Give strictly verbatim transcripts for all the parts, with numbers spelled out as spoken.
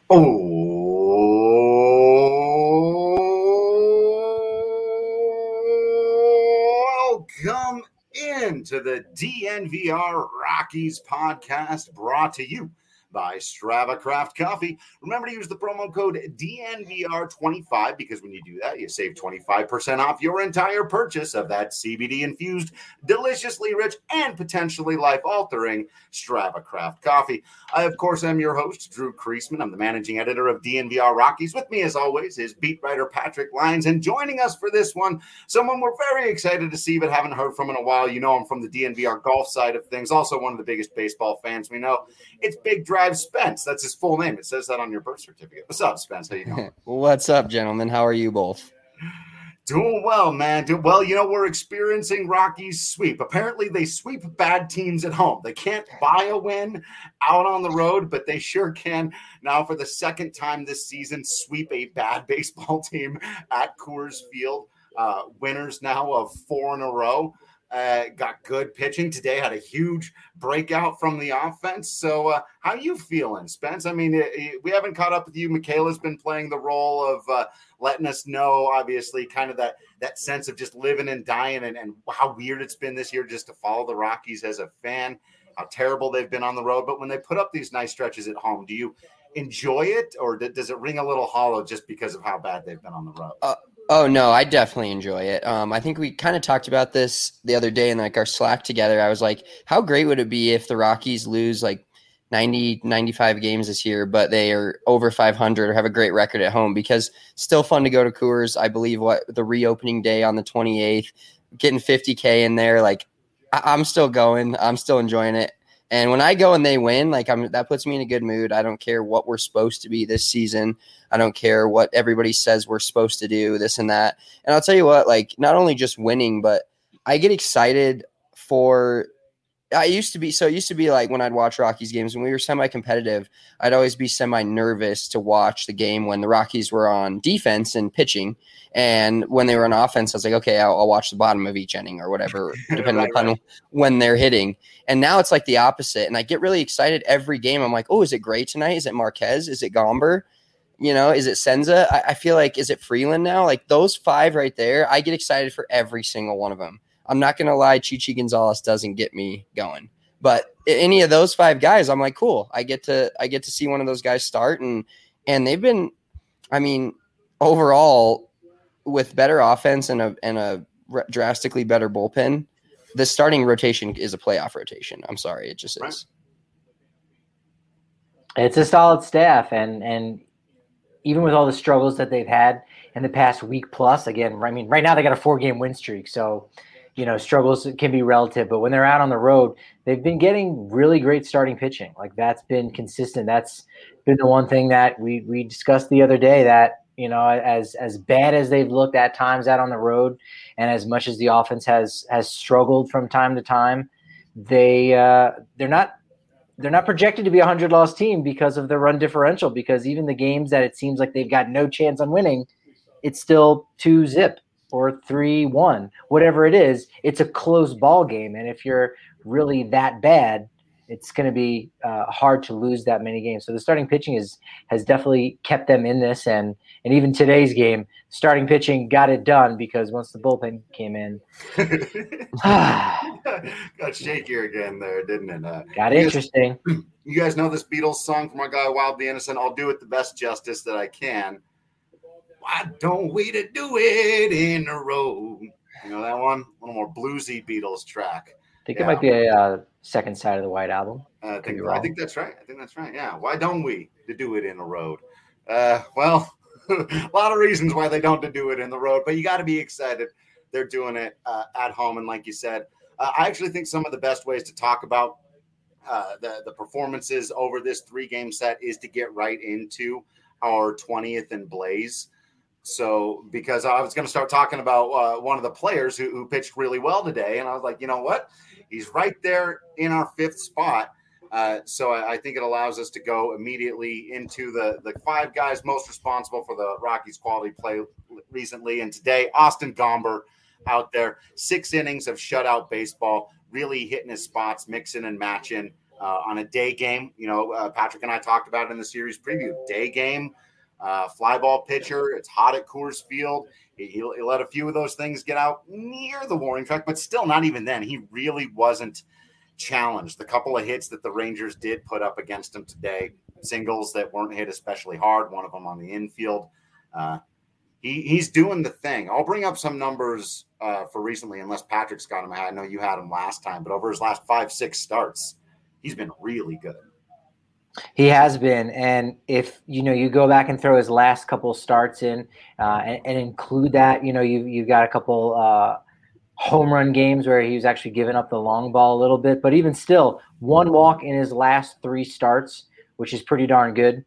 Oh, welcome into the D N V R Rockies podcast, brought to you by Strava Craft Coffee. Remember to use the promo code D N V R twenty-five because when you do that, you save twenty-five percent off your entire purchase of that C B D-infused, deliciously rich, and potentially life-altering Strava Craft Coffee. I, of course, am your host, Drew Creasman. I'm the managing editor of D N V R Rockies. With me, as always, is beat writer Patrick Lyons. And joining us for this one, someone we're very excited to see but haven't heard from in a while. You know him from the D N V R golf side of things. Also one of the biggest baseball fans we know. It's Big Drive Spence. That's his full name. It says that on your birth certificate. What's up, Spence? How you doing? What's up, gentlemen? How are you both? Doing well, man. Doing well. You know, we're experiencing Rockies sweep. Apparently, they sweep bad teams at home. They can't buy a win out on the road, but they sure can now for the second time this season sweep a bad baseball team at Coors Field. Uh, winners now of four in a row. Uh, got good pitching today, had a huge breakout from the offense. So uh, how you feeling, Spence? I mean, it, it, we haven't caught up with you. Michaela's been playing the role of uh, letting us know, obviously, kind of that that sense of just living and dying and, and how weird it's been this year just to follow the Rockies as a fan, how terrible they've been on the road. But when they put up these nice stretches at home, do you enjoy it, or does it ring a little hollow just because of how bad they've been on the road? Uh- Oh, no, I definitely enjoy it. Um, I think we kind of talked about this the other day in like our Slack together. I was like, how great would it be if the Rockies lose like ninety, ninety-five games this year, but they are over five hundred or have a great record at home? Because still fun to go to Coors. I believe what the reopening day on the twenty-eighth, getting fifty K in there. Like I- I'm still going. I'm still enjoying it. And when I go and they win, like I'm, that puts me in a good mood. I don't care what we're supposed to be this season. I don't care what everybody says we're supposed to do, this and that. And I'll tell you what, like not only just winning, but I get excited for – I used to be – so it used to be like when I'd watch Rockies games, when we were semi-competitive, I'd always be semi-nervous to watch the game when the Rockies were on defense and pitching. And when they were on offense, I was like, okay, I'll, I'll watch the bottom of each inning or whatever, depending right, upon right. when they're hitting. And now it's like the opposite. And I get really excited every game. I'm like, oh, is it Gray tonight? Is it Marquez? Is it Gomber? You know, is it Senza? I, I feel like, is it Freeland now? Like those five right there, I get excited for every single one of them. I'm not going to lie, Chichi Gonzalez doesn't get me going. But any of those five guys, I'm like, cool. I get to I get to see one of those guys start. And and they've been, I mean, overall, with better offense and a and a drastically better bullpen, the starting rotation is a playoff rotation. I'm sorry, it just is. Right. It's a solid staff, and and even with all the struggles that they've had in the past week plus, again, I mean, right now they got a four-game win streak, so you know struggles can be relative. But when they're out on the road, they've been getting really great starting pitching. Like that's been consistent. That's been the one thing that we we discussed the other day that. You know, as as bad as they've looked at times out on the road, and as much as the offense has has struggled from time to time, they uh, they're not they're not projected to be a hundred loss team because of their run differential. Because even the games that it seems like they've got no chance on winning, it's still two zip or three one, whatever it is. It's a close ball game, and if you're really that bad, it's going to be uh, hard to lose that many games. So the starting pitching is has definitely kept them in this, and and even today's game, starting pitching got it done because once the bullpen came in, got shakier again there, didn't it? Uh, got you interesting. Guys, you guys know this Beatles song from our guy Wildly Innocent. I'll do it the best justice that I can. Why don't we to do it in a row? You know that one? A little more bluesy Beatles track. I think yeah. it might be a uh, second side of the White Album. Uh, I think I think that's right. I think that's right. Yeah. Why don't we to do it in a road? Uh, well, a lot of reasons why they don't to do it in the road, but you got to be excited. They're doing it uh, at home, and like you said, uh, I actually think some of the best ways to talk about uh, the the performances over this three game set is to get right into our twentieth and Blaze. So, because I was going to start talking about uh, one of the players who, who pitched really well today, and I was like, you know what? He's right there in our fifth spot. Uh, so I, I think it allows us to go immediately into the, the five guys most responsible for the Rockies' quality play recently. And today, Austin Gomber out there, six innings of shutout baseball, really hitting his spots, mixing and matching. uh, on a day game. You know, uh, Patrick and I talked about it in the series preview. Day game, uh, fly ball pitcher. It's hot at Coors Field. He, he, he let a few of those things get out near the warning track, but still not even then. He really wasn't challenged. The couple of hits that the Rangers did put up against him today, singles that weren't hit especially hard, one of them on the infield. Uh, he, he's doing the thing. I'll bring up some numbers uh, for recently, unless Patrick's got him. I know you had him last time, but over his last five, six starts, he's been really good. He has been, and if you know you go back and throw his last couple starts in, uh, and, and include that, you know you you've got a couple uh, home run games where he was actually giving up the long ball a little bit, but even still, one walk in his last three starts, which is pretty darn good.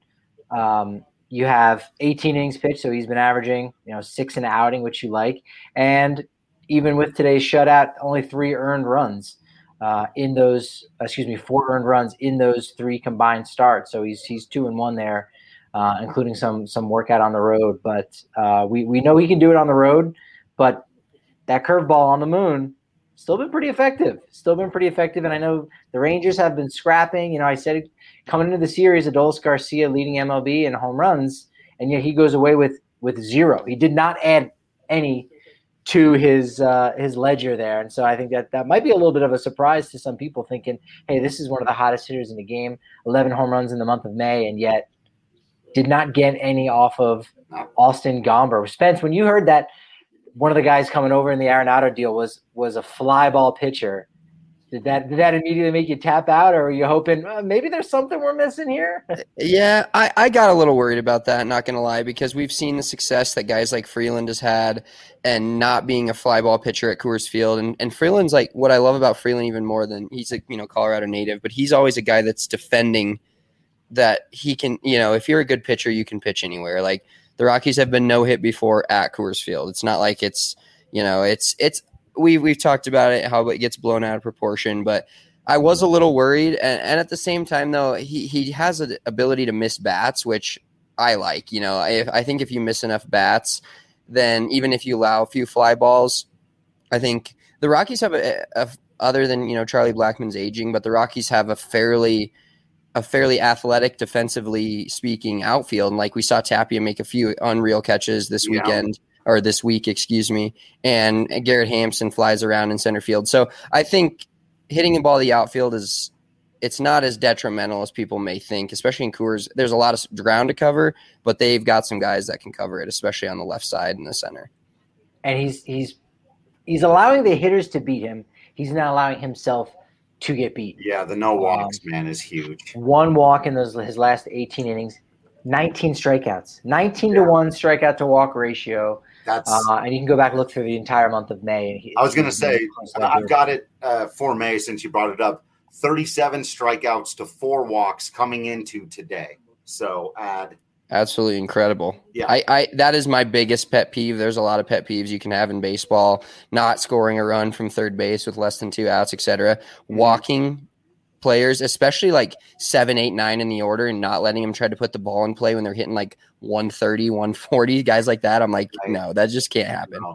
Um, you have eighteen innings pitched, so he's been averaging you know six an outing, which you like, and even with today's shutout, only three earned runs. Uh, in those, excuse me, four earned runs in those three combined starts. So he's he's two and one there, uh, including some some workout on the road. But uh, we we know he can do it on the road. But that curveball on the moon still been pretty effective. Still been pretty effective. And I know the Rangers have been scrapping. You know, I said it, coming into the series, Adolis Garcia leading M L B in home runs, and yet he goes away with with zero. He did not add any to his uh, his ledger there. And so I think that that might be a little bit of a surprise to some people thinking, hey, this is one of the hottest hitters in the game, eleven home runs in the month of May, and yet did not get any off of Austin Gomber. Spence, when you heard that one of the guys coming over in the Arenado deal was was a fly ball pitcher, Did that did that immediately make you tap out, or are you hoping uh, maybe there's something we're missing here? Yeah, I, I got a little worried about that, not going to lie, because we've seen the success that guys like Freeland has had and not being a fly ball pitcher at Coors Field. And, and Freeland's like, what I love about Freeland even more than he's a you know Colorado native, but he's always a guy that's defending that he can, you know, if you're a good pitcher, you can pitch anywhere. Like the Rockies have been no hit before at Coors Field. It's not like it's, you know, it's, it's, We we've talked about it, how it gets blown out of proportion, but I was a little worried. And, and at the same time, though, he he has an ability to miss bats, which I like. You know, I, I think if you miss enough bats, then even if you allow a few fly balls, I think the Rockies have a, a other than you know Charlie Blackmon's aging, but the Rockies have a fairly a fairly athletic, defensively speaking, outfield. And like we saw Tapia make a few unreal catches this yeah. weekend. or this week, excuse me, and Garrett Hampson flies around in center field. So I think hitting the ball the outfield is it's not as detrimental as people may think, especially in Coors. There's a lot of ground to cover, but they've got some guys that can cover it, especially on the left side and the center. And he's he's he's allowing the hitters to beat him. He's not allowing himself to get beat. Yeah, the no walks, um, man, is huge. One walk in those his last eighteen innings, nineteen strikeouts, nineteen yeah. to one strikeout to walk ratio. That's uh, and you can go back and look through the entire month of May. And he, I was going to say, I've got it uh, for May since you brought it up. thirty-seven strikeouts to four walks coming into today. So add. Absolutely incredible. Yeah, I, I that is my biggest pet peeve. There's a lot of pet peeves you can have in baseball. Not scoring a run from third base with less than two outs, et cetera. Mm-hmm. Walking players, especially like seven, eight, nine in the order, and not letting them try to put the ball in play when they're hitting like one thirty, one forty, guys like that. I'm like, right. no, that just can't happen. No.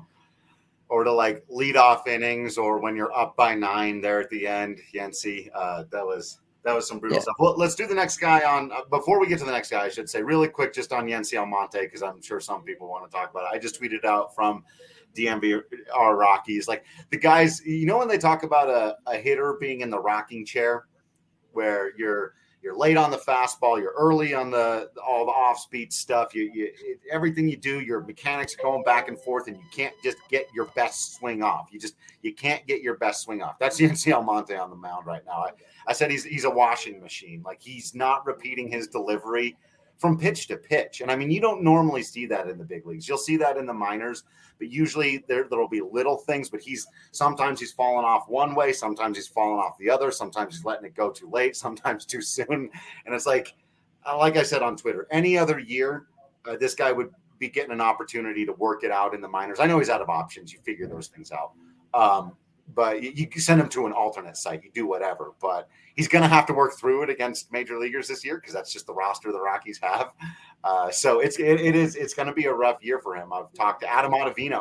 Or to like lead off innings, or when you're up by nine there at the end, Yency, uh, that was that was some brutal yeah. stuff. Well, let's do the next guy on. Uh, before we get to the next guy, I should say really quick just on Yency Almonte, because I'm sure some people want to talk about it. I just tweeted out from D M V R Rockies, like the guys, you know, when they talk about a, a hitter being in the rocking chair, where you're you're late on the fastball, you're early on the all the off-speed stuff, you, you it, everything you do, your mechanics are going back and forth, and you can't just get your best swing off. You just you can't get your best swing off. That's Yency Almonte on the mound right now. I, I said he's he's a washing machine. Like he's not repeating his delivery from pitch to pitch. And I mean, you don't normally see that in the big leagues. You'll see that in the minors, but usually there there'll be little things, but he's sometimes he's falling off one way, sometimes he's falling off the other, sometimes he's letting it go too late, sometimes too soon. And it's like, like I said on Twitter, any other year, uh, this guy would be getting an opportunity to work it out in the minors. I know he's out of options. You figure those things out. Um, but you, you send him to an alternate site, you do whatever, but he's going to have to work through it against major leaguers this year, because that's just the roster the Rockies have. Uh, so it's, it, it is, it's going to be a rough year for him. I've talked to Adam Ottavino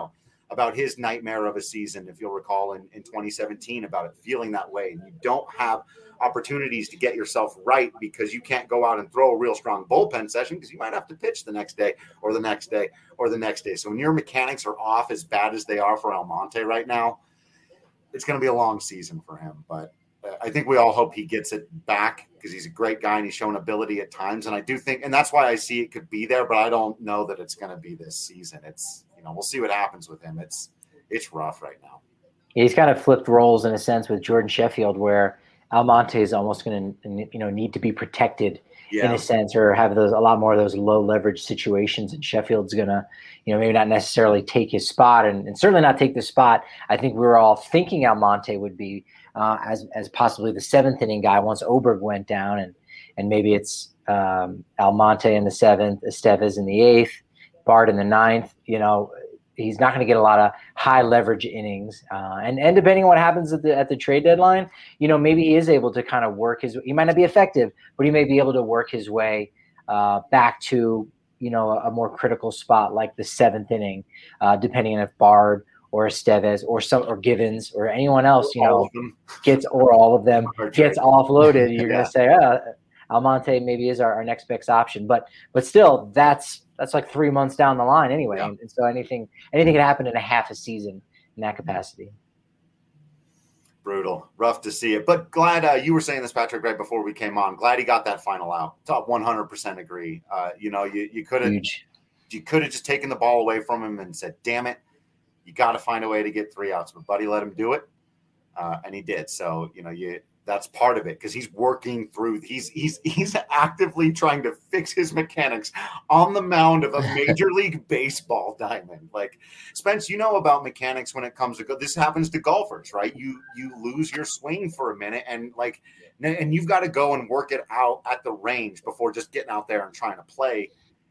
about his nightmare of a season, if you'll recall, in, in twenty seventeen, about it feeling that way. And you don't have opportunities to get yourself right because you can't go out and throw a real strong bullpen session because you might have to pitch the next day or the next day or the next day. So when your mechanics are off as bad as they are for Almonte right now, it's going to be a long season for him. But uh, I think we all hope he gets it back because he's a great guy and he's shown ability at times. And I do think, and that's why I see it could be there, but I don't know that it's going to be this season. It's, you know, we'll see what happens with him. It's, it's rough right now. He's kind of flipped roles in a sense with Jordan Sheffield, where Almonte is almost going to, you know, need to be protected yeah. in a sense, or have those a lot more of those low leverage situations. And Sheffield's going to, you know, maybe not necessarily take his spot, and, and certainly not take the spot I think we were all thinking Almonte would be uh, as as possibly the seventh inning guy once Oberg went down, and and maybe it's um, Almonte in the seventh, Estevez in the eighth, Bart in the ninth. You know, he's not going to get a lot of high leverage innings, uh, and and depending on what happens at the at the trade deadline, you know, maybe he is able to kind of work his. He might not be effective, but he may be able to work his way uh, back to, you know, a, a more critical spot like the seventh inning, uh, depending on if Bard or Estevez or some or Givens or anyone else, you know, gets or all of them gets offloaded. You're yeah. going to say, uh, Almonte maybe is our, our next best option, but but still, that's. That's like three months down the line anyway. Yeah. And so anything anything can happen in a half a season in that capacity. Brutal. Rough to see it. But glad uh, you were saying this, Patrick, right before we came on. Glad he got that final out. Top one hundred percent agree. Uh, you know, you, you could have you could have just taken the ball away from him and said, damn it, you got to find a way to get three outs. But Buddy let him do it, uh, and he did. So, you know, you – that's part of it because he's working through. He's he's he's actively trying to fix his mechanics on the mound of a Major League Baseball diamond. Like, Spence, you know about mechanics when it comes to go. This happens to golfers, right? You you lose your swing for a minute, and like, and you've got to go and work it out at the range before just getting out there and trying to play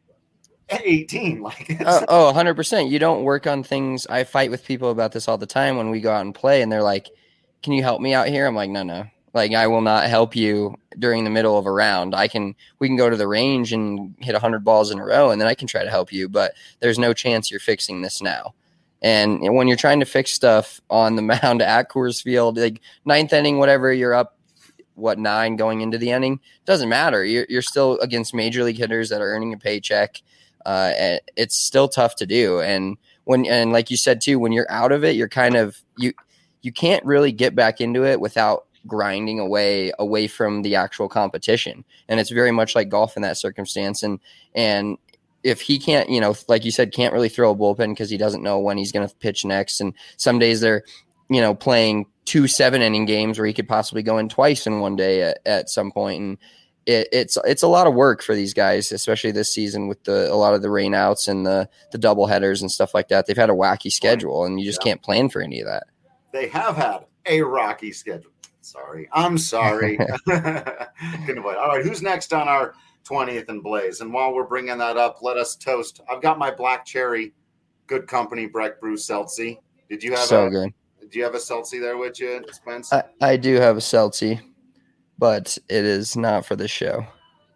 at eighteen. Like, it's, oh, oh, one hundred percent. You don't work on things. I fight with people about this all the time when we go out and play, and they're like, "Can you help me out here?" I'm like, "No, no." Like, I will not help you during the middle of a round. I can, we can go to the range and hit a hundred balls in a row, and then I can try to help you, but there's no chance you're fixing this now. And when you're trying to fix stuff on the mound at Coors Field, like ninth inning, whatever, you're up, what, nine going into the inning, doesn't matter. You're, you're still against major league hitters that are earning a paycheck. Uh, it's still tough to do. And when, and like you said too, when you're out of it, you're kind of, you, you can't really get back into it without grinding away away from the actual competition. And it's very much like golf in that circumstance. And and if he can't, you know, like you said, can't really throw a bullpen because he doesn't know when he's going to pitch next. And some days they're, you know, playing two seven inning games where he could possibly go in twice in one day at, at some point. And it, it's it's a lot of work for these guys, especially this season with the a lot of the rainouts and the the double headers and stuff like that. They've had a wacky schedule, and you just yeah. can't plan for any of that. They have had a rocky schedule. Sorry. I'm sorry. Couldn't avoid. All right. Who's next on our twentieth and Blaze? And while we're bringing that up, let us toast. I've got my Black Cherry Good Company Breck Brew Seltzy. Did you have so a, good. Do you have a Seltzy there with you, Spence? I, I do have a Seltzy, but it is not for the show.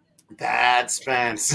Bad Spence.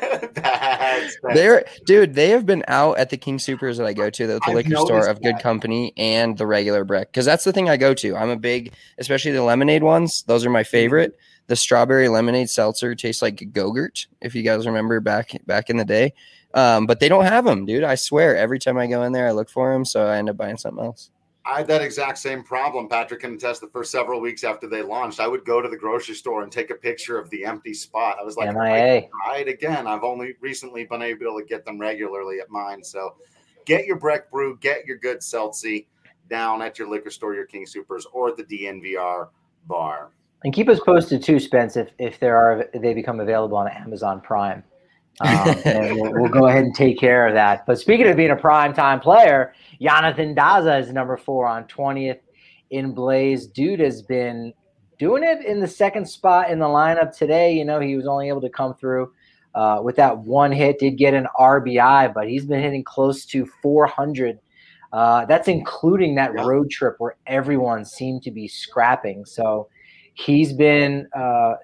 Bad Spence. They're, dude, they have been out at the King Supers that I go to, the, the liquor store of Good that. Company and the regular Breck. Because that's the thing I go to. I'm a big, especially the lemonade ones. Those are my favorite. The strawberry lemonade seltzer tastes like Go-Gurt, if you guys remember back back in the day. Um, but they don't have them, dude. I swear. Every time I go in there, I look for them, so I end up buying something else. I had that exact same problem. Patrick can attest the first several weeks after they launched, I would go to the grocery store and take a picture of the empty spot. I was like, M I A. Try it again. I've only recently been able to get them regularly at mine. So get your Breck Brew, get your good Seltzy down at your liquor store, your King Supers, or at the D N V R bar. And keep us posted too, Spence, if, if there are if they become available on Amazon Prime. Um, and we'll, we'll go ahead and take care of that. But speaking of being a primetime player, Jonathan Daza is number four on twentieth in Blaze. Dude has been doing it in the second spot in the lineup today. You know, he was only able to come through uh, with that one hit, did get an R B I, but he's been hitting close to four hundred. Uh, that's including that yeah. road trip where everyone seemed to be scrapping. So he's been a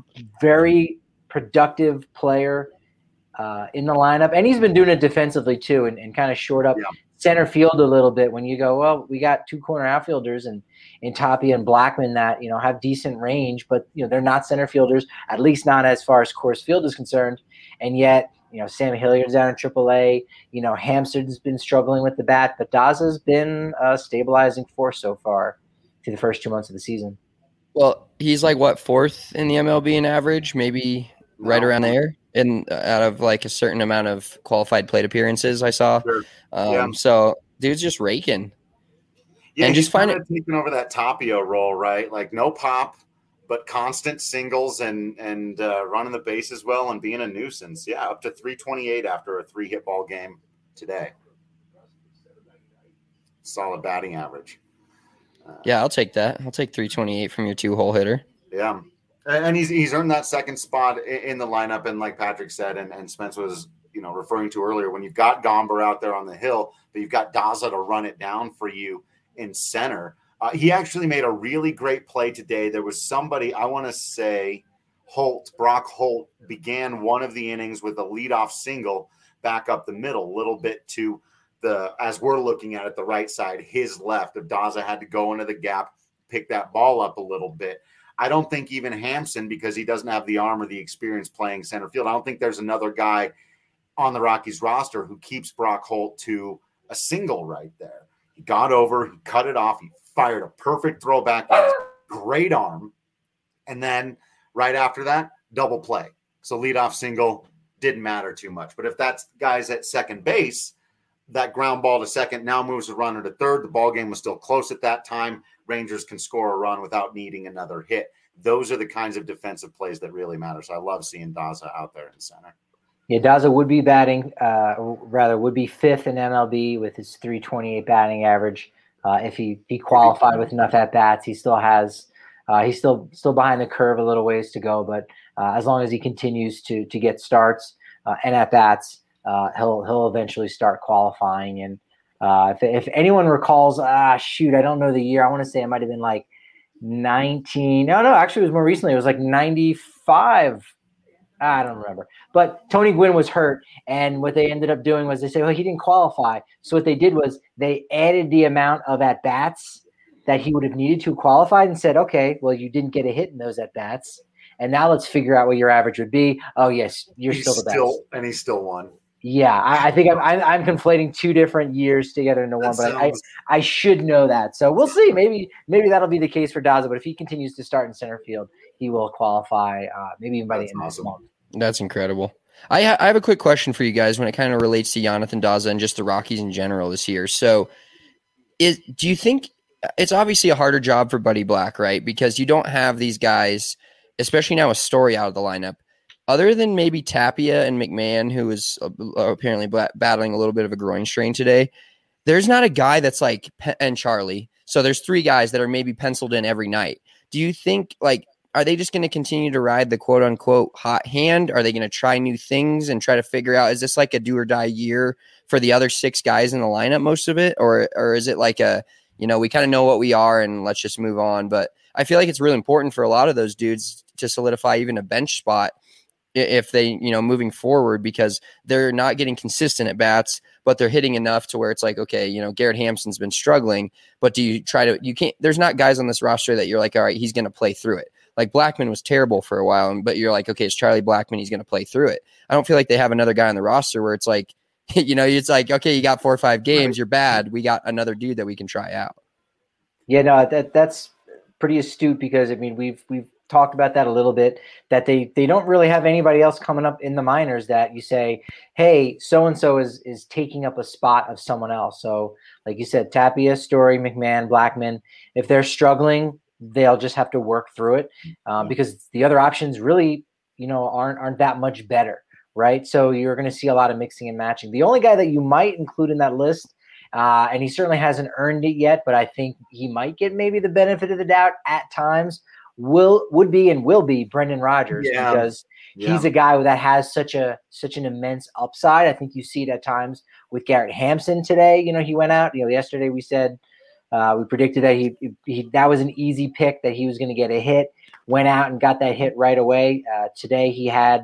very productive player Uh, in the lineup, and he's been doing it defensively too, and, and kind of shored up yeah. center field a little bit when you go, well, we got two corner outfielders and in Tapia and Blackmon that, you know, have decent range, but, you know, they're not center fielders, at least not as far as Coors Field is concerned. And yet, you know, Sam Hilliard's down in triple A. You know, Hampson's been struggling with the bat, but Daza's been a stabilizing force so far through the first two months of the season. Well, he's like, what, fourth in the M L B in average, maybe right no. around there, in out of like a certain amount of qualified plate appearances I saw. Sure. Um, yeah. So dude's just raking. Yeah, and he's just find kind of taking over that Tapia role, right? Like no pop, but constant singles and and uh, running the bases well and being a nuisance. Yeah, up to three twenty-eight after a three hit ball game today. Solid batting average. Uh, yeah, I'll take that. I'll take three twenty-eight from your two hole hitter. Yeah. And he's he's earned that second spot in the lineup. And like Patrick said, and, and Spence was, you know, referring to earlier, when you've got Gomber out there on the hill, but you've got Daza to run it down for you in center. Uh, he actually made a really great play today. There was somebody, I want to say Holt, Brock Holt, began one of the innings with a leadoff single back up the middle, a little bit to the, as we're looking at it, the right side, his left. If Daza had to go into the gap, pick that ball up a little bit. I don't think even Hampson, because he doesn't have the arm or the experience playing center field, I don't think there's another guy on the Rockies roster who keeps Brock Holt to a single right there. He got over, he cut it off, he fired a perfect throw back, great arm, and then right after that, double play. So leadoff single didn't matter too much. But if that guy's at second base, that ground ball to second now moves the runner to third. The ball game was still close at that time. Rangers can score a run without needing another hit. Those are the kinds of defensive plays that really matter. So I love seeing Daza out there in center. Yeah, Daza would be batting, uh, rather would be fifth in M L B with his three twenty-eight batting average. Uh, if he he qualified with enough at bats, he still has uh, he's still still behind the curve, a little ways to go. But uh, as long as he continues to to get starts uh, and at bats, uh, he'll he'll eventually start qualifying. And uh, if if anyone recalls, ah, shoot, I don't know the year. I want to say it might have been like nineteen. No, no, actually, it was more recently. It was like ninety-five. I don't remember. But Tony Gwynn was hurt, and what they ended up doing was they said, well, he didn't qualify. So what they did was they added the amount of at-bats that he would have needed to qualify and said, okay, well, you didn't get a hit in those at-bats, and now let's figure out what your average would be. Oh, yes, you're he's still the best. Still, and he still won. Yeah, I, I think I'm, I'm I'm conflating two different years together into one, that but sounds... I I should know that. So we'll see. Maybe maybe that'll be the case for Daza. But if he continues to start in center field, he will qualify. Uh, maybe even by That's the end awesome. of this month. That's incredible. I ha- I have a quick question for you guys when it kind of relates to Jonathan Daza and just the Rockies in general this year. So, is do you think it's obviously a harder job for Buddy Black, right? Because you don't have these guys, especially now with Story out of the lineup. Other than maybe Tapia and McMahon, who is uh, apparently bat- battling a little bit of a groin strain today, there's not a guy that's like – and Charlie. So there's three guys that are maybe penciled in every night. Do you think like – are they just going to continue to ride the quote-unquote hot hand? Are they going to try new things and try to figure out, is this like a do-or-die year for the other six guys in the lineup, most of it? Or or is it like a, you know, we kind of know what we are and let's just move on? But I feel like it's really important for a lot of those dudes to solidify even a bench spot if they, you know, moving forward, because they're not getting consistent at bats, but they're hitting enough to where it's like, okay, you know, Garrett Hampson's been struggling, but do you try to, you can't, there's not guys on this roster that you're like, all right, he's going to play through it. Like Blackmon was terrible for a while, but you're like, okay, it's Charlie Blackmon, he's going to play through it. I don't feel like they have another guy on the roster where it's like, you know, it's like, okay, you got four or five games, you're bad. We got another dude that we can try out. Yeah, no, that that's pretty astute because I mean, we've, we've, talked about that a little bit, that they they don't really have anybody else coming up in the minors that you say, hey, so-and-so is is taking up a spot of someone else. So like you said, Tapia, Story, McMahon, Blackmon, if they're struggling, they'll just have to work through it um, because the other options really, you know, aren't aren't that much better, right? So you're going to see a lot of mixing and matching. The only guy that you might include in that list, uh, and he certainly hasn't earned it yet, but I think he might get maybe the benefit of the doubt at times, will would be and will be Brendan Rodgers yeah. because yeah. he's a guy that has such a such an immense upside. I think you see it at times with Garrett Hampson today. You know, he went out. You know, yesterday we said uh, we predicted that he, he that was an easy pick, that he was going to get a hit. Went out and got that hit right away. Uh, today he had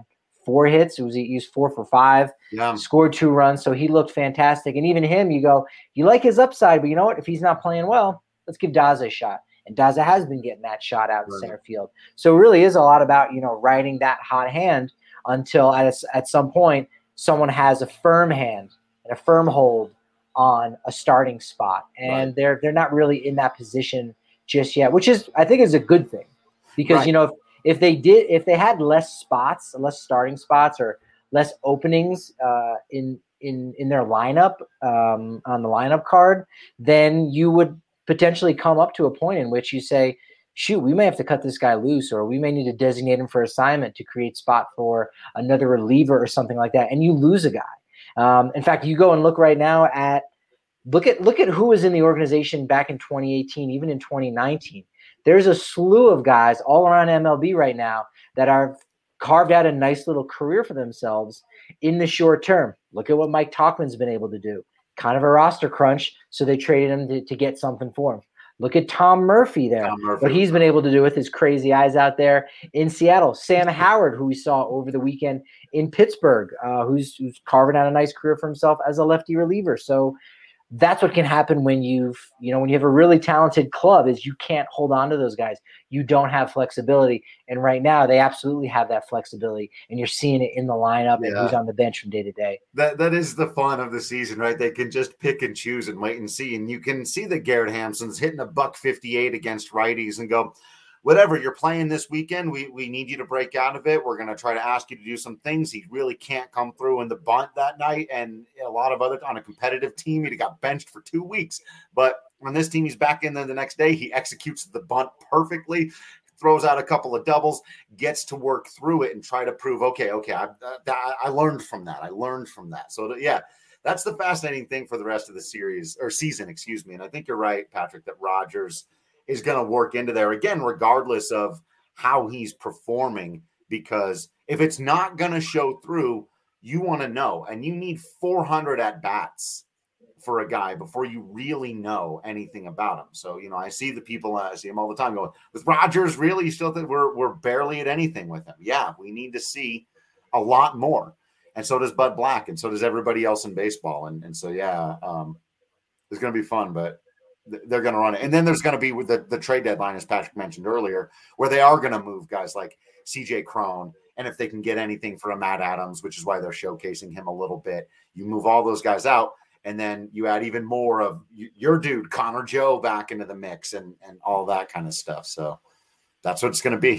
four hits. It was he was four for five. Yeah. Scored two runs, so he looked fantastic. And even him, you go, you like his upside, but you know what? If he's not playing well, let's give Daza a shot. And Daza has been getting that shot out in Right. center field. So it really is a lot about, you know, riding that hot hand until at a, at some point someone has a firm hand and a firm hold on a starting spot. And Right. they're they're not really in that position just yet, which is I think is a good thing. Because Right. you know, if, if they did if they had less spots, less starting spots or less openings uh, in in in their lineup um, on the lineup card, then you would potentially come up to a point in which you say, shoot, we may have to cut this guy loose, or we may need to designate him for assignment to create spot for another reliever or something like that, and you lose a guy. Um, in fact, you go and look right now at look at look at who was in the organization back in twenty eighteen, even in twenty nineteen. There's a slew of guys all around M L B right now that are carved out a nice little career for themselves in the short term. Look at what Mike Tauchman's been able to do. Kind of a roster crunch, so they traded him to, to get something for him. Look at Tom Murphy there, Tom Murphy. what he's been able to do with his crazy eyes out there in Seattle. Sam Howard, who we saw over the weekend in Pittsburgh, uh, who's, who's carving out a nice career for himself as a lefty reliever. So that's what can happen when you've, you know, when you have a really talented club is you can't hold on to those guys. You don't have flexibility. And right now they absolutely have that flexibility, and you're seeing it in the lineup and Yeah. who's on the bench from day to day. That that is the fun of the season, right? They can just pick and choose and wait and see. And you can see that Garrett Hampson's hitting a buck fifty-eight against righties and go, whatever, you're playing this weekend. We we need you to break out of it. We're going to try to ask you to do some things. He really can't come through in the bunt that night. And a lot of other on a competitive team, he got benched for two weeks. But on this team, he's back in there the next day. He executes the bunt perfectly, throws out a couple of doubles, gets to work through it and try to prove, okay, okay, I, I, I learned from that. I learned from that. So, yeah, that's the fascinating thing for the rest of the series or season, excuse me. And I think you're right, Patrick, that Rogers is going to work into there again, regardless of how he's performing, because if it's not going to show through, you want to know, and you need four hundred at bats for a guy before you really know anything about him. So, you know, I see the people, uh, I see him all the time going, with Rogers, really, you still think we're, we're barely at anything with him? Yeah, we need to see a lot more. And so does Bud Black, and so does everybody else in baseball. And, and so, yeah, um, it's going to be fun, but they're going to run it. And then there's going to be with the, the trade deadline, as Patrick mentioned earlier, where they are going to move guys like C J Cron. And if they can get anything for a Matt Adams, which is why they're showcasing him a little bit, you move all those guys out, and then you add even more of your dude, Connor Joe, back into the mix and, and all that kind of stuff. So that's what it's going to be.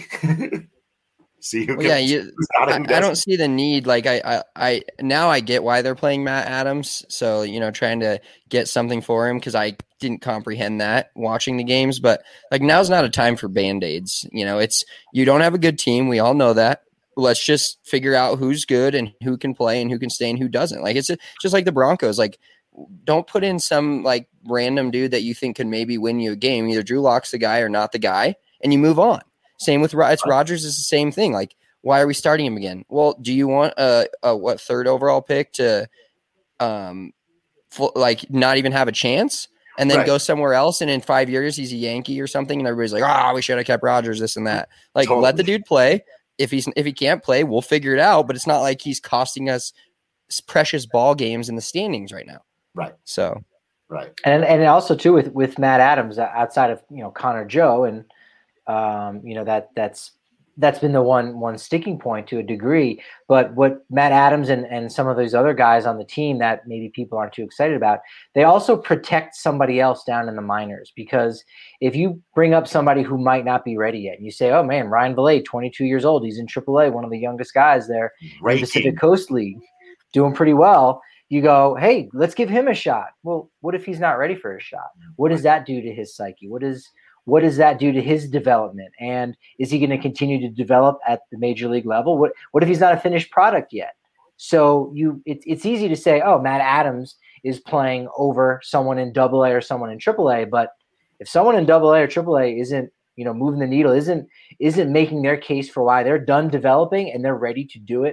See who well, yeah, gets, you, who's got it, I, who I don't doesn't. see the need. Like I, I, I, now I get why they're playing Matt Adams. So, you know, trying to get something for him, because I didn't comprehend that watching the games. But like, now's not a time for Band-Aids. You know, it's, you don't have a good team. We all know that. Let's just figure out who's good and who can play and who can stay and who doesn't. Like, it's a, just like the Broncos. Like, don't put in some like random dude that you think could maybe win you a game. Either Drew Lock's the guy or not the guy, and you move on. Same with it's Rodgers is the same thing. Like, why are we starting him again? Well, do you want a, a what third overall pick to, um, full, like not even have a chance, and then Right. go somewhere else, and in five years he's a Yankee or something, and everybody's like, ah, oh, we should have kept Rodgers, this and that. Like, Totally. let the dude play. If he's if he can't play, we'll figure it out. But it's not like he's costing us precious ball games in the standings right now. Right. So, Right. And and also too with with Matt Adams outside of you know Connor Joe and um, you know that that's that's been the one one sticking point to a degree. But what Matt Adams and and some of those other guys on the team that maybe people aren't too excited about, they also protect somebody else down in the minors, because if you bring up somebody who might not be ready yet, and you say, oh man, Ryan Villet, twenty-two years old, he's in triple A, one of the youngest guys there in the Great Pacific team. Coast League, doing pretty well. You go, hey, let's give him a shot. Well, what if he's not ready for a shot? What does that do to his psyche? What is what does that do to his development? And is he going to continue to develop at the major league level? What what if he's not a finished product yet? So you, it's it's easy to say, oh, Matt Adams is playing over someone in Double A or someone in Triple A, but if someone in Double A or Triple A isn't, you know, moving the needle, isn't isn't making their case for why they're done developing and they're ready to do it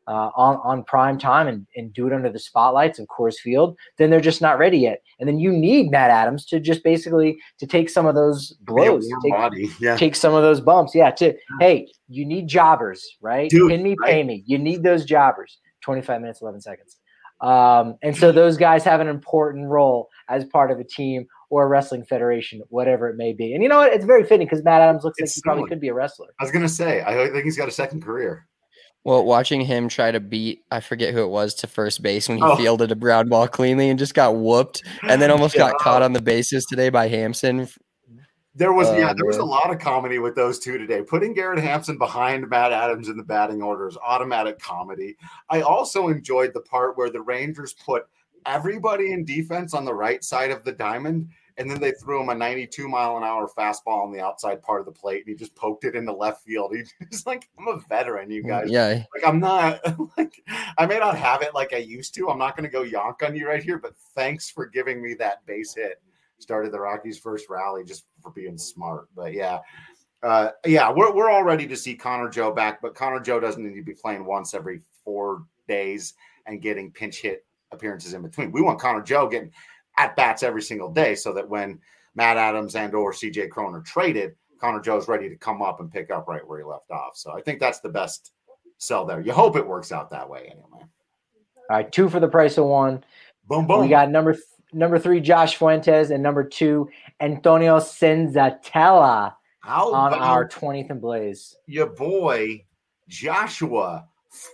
uh, on, on prime time and, and do it under the spotlights of Coors Field, then they're just not ready yet. And then you need Matt Adams to just basically to take some of those blows, take, body. Yeah. take some of those bumps. Yeah. To, hey, you need jobbers, right? Dude, Pin me, right? pay me. You need those jobbers. twenty-five minutes, eleven seconds. Um, and so those guys have an important role as part of a team or a wrestling federation, whatever it may be. And you know what? It's very fitting because Matt Adams looks It's like he probably similar. could be a wrestler. I was going to say, I think he's got a second career. Well, watching him try to beat, I forget who it was, to first base when he Oh. fielded a ground ball cleanly and just got whooped and then almost Yeah. got caught on the bases today by Hampson. There was Oh, yeah, there was a man. lot of comedy with those two today. Putting Garrett Hampson behind Matt Adams in the batting order is automatic comedy. I also enjoyed the part where the Rangers put everybody in defense on the right side of the diamond, and then they threw him a ninety-two mile an hour fastball on the outside part of the plate, and he just poked it into left field. He's like, I'm a veteran, you guys. Yeah. Like, I'm not like I may not have it like I used to. I'm not going to go yonk on you right here, but thanks for giving me that base hit. Started the Rockies' first rally just for being smart. But yeah, uh, yeah, we're we're all ready to see Connor Joe back, but Connor Joe doesn't need to be playing once every four days and getting pinch hit appearances in between. We want Connor Joe getting at bats every single day, so that when Matt Adams and or C J Cron are traded, Connor Joe's ready to come up and pick up right where he left off. So I think that's the best sell there. You hope it works out that way anyway. All right, two for the price of one. Boom, boom. We got number th- number three, Josh Fuentes, and number two, Antonio Senzatella How on about our twentieth and Blaze. your boy Joshua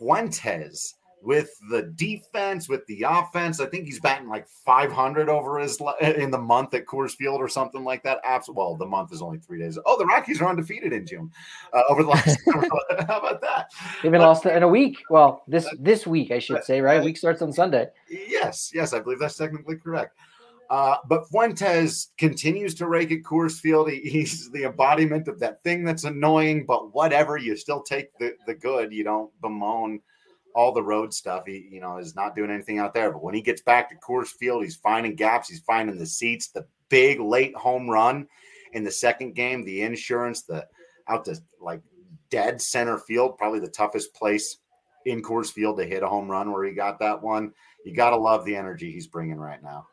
Fuentes with the defense, with the offense? I think he's batting like five hundred over his in the month at Coors Field or something like that. Absolutely. Well, the month is only three days. Oh, the Rockies are undefeated in June uh, over the last. How about that? They've been lost in a week. Well, this this week, I should say, right? Week starts on Sunday. Yes, yes, I believe that's technically correct. Uh, but Fuentes continues to rake at Coors Field. He, he's the embodiment of that thing that's annoying, but whatever, you still take the, the good. You don't bemoan all the road stuff. He, you know, is not doing anything out there. But when he gets back to Coors Field, he's finding gaps. He's finding the seats. The big late home run in the second game, the insurance, the out to like dead center field, probably the toughest place in Coors Field to hit a home run where he got that one. You got to love the energy he's bringing right now.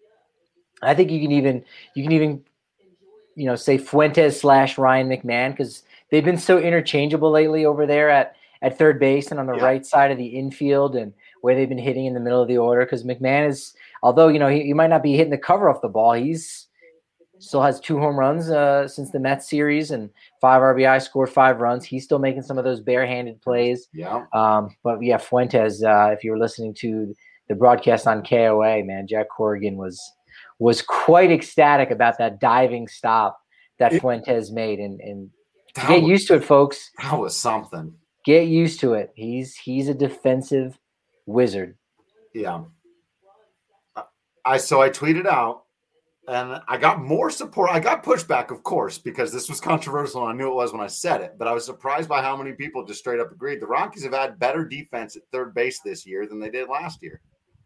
I think you can even you can even you know say Fuentes slash Ryan McMahon because they've been so interchangeable lately over there at at third base and on the Yeah. right side of the infield and where they've been hitting in the middle of the order. Because McMahon is, although you know he, he might not be hitting the cover off the ball, he's still has two home runs uh, since the Mets series and five R B I, scored five runs. He's still making some of those barehanded plays. Yeah. Um, but yeah, Fuentes. Uh, if you were listening to the broadcast on K O A, man, Jack Corrigan was. was quite ecstatic about that diving stop that It, Fuentes made. And, and that get was, used to it, folks. That was something. Get used to it. He's he's a defensive wizard. Yeah. I so I tweeted out and I got more support. I got pushback, of course, because this was controversial and I knew it was when I said it, but I was surprised by how many people just straight up agreed. The Rockies have had better defense at third base this year than they did last year.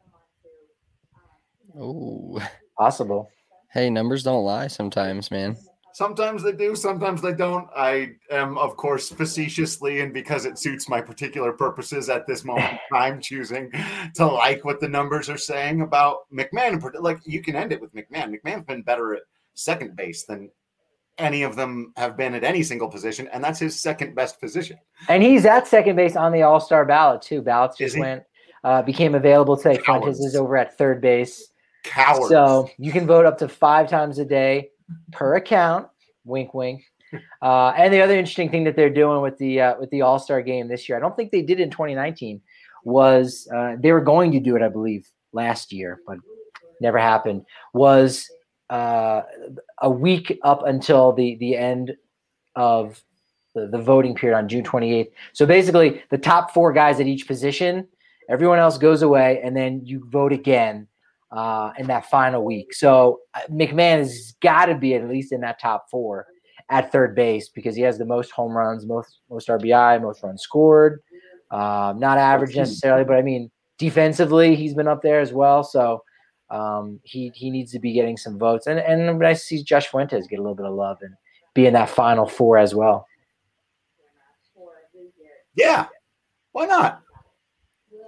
Oh, Possible. hey, numbers don't lie sometimes, man. Sometimes they do, sometimes they don't. I am, of course, facetiously and because it suits my particular purposes at this moment in time, choosing to like what the numbers are saying about McMahon. Like, you can end it with McMahon. McMahon's been better at second base than any of them have been at any single position, and that's his second best position. And he's at second base on the All-Star ballot, too. Ballots Is just he? went, uh, became available today. Cowards. Fuentes is over at third base. Cowards. So you can vote up to five times a day per account. Wink, wink. Uh, and the other interesting thing that they're doing with the uh, with the All Star game this year, I don't think they did it in twenty nineteen, was uh, they were going to do it, I believe, last year, but never happened. Was uh, a week up until the the end of the, the voting period on June twenty-eighth. So basically, the top four guys at each position, everyone else goes away, and then you vote again. Uh, in that final week. So uh, McMahon has got to be at least in that top four at third base because he has the most home runs, most most R B I, most runs scored. Um, not average necessarily, but I mean defensively he's been up there as well. So um, he he needs to be getting some votes. And and nice to see Josh Fuentes get a little bit of love and be in that final four as well. Yeah, why not?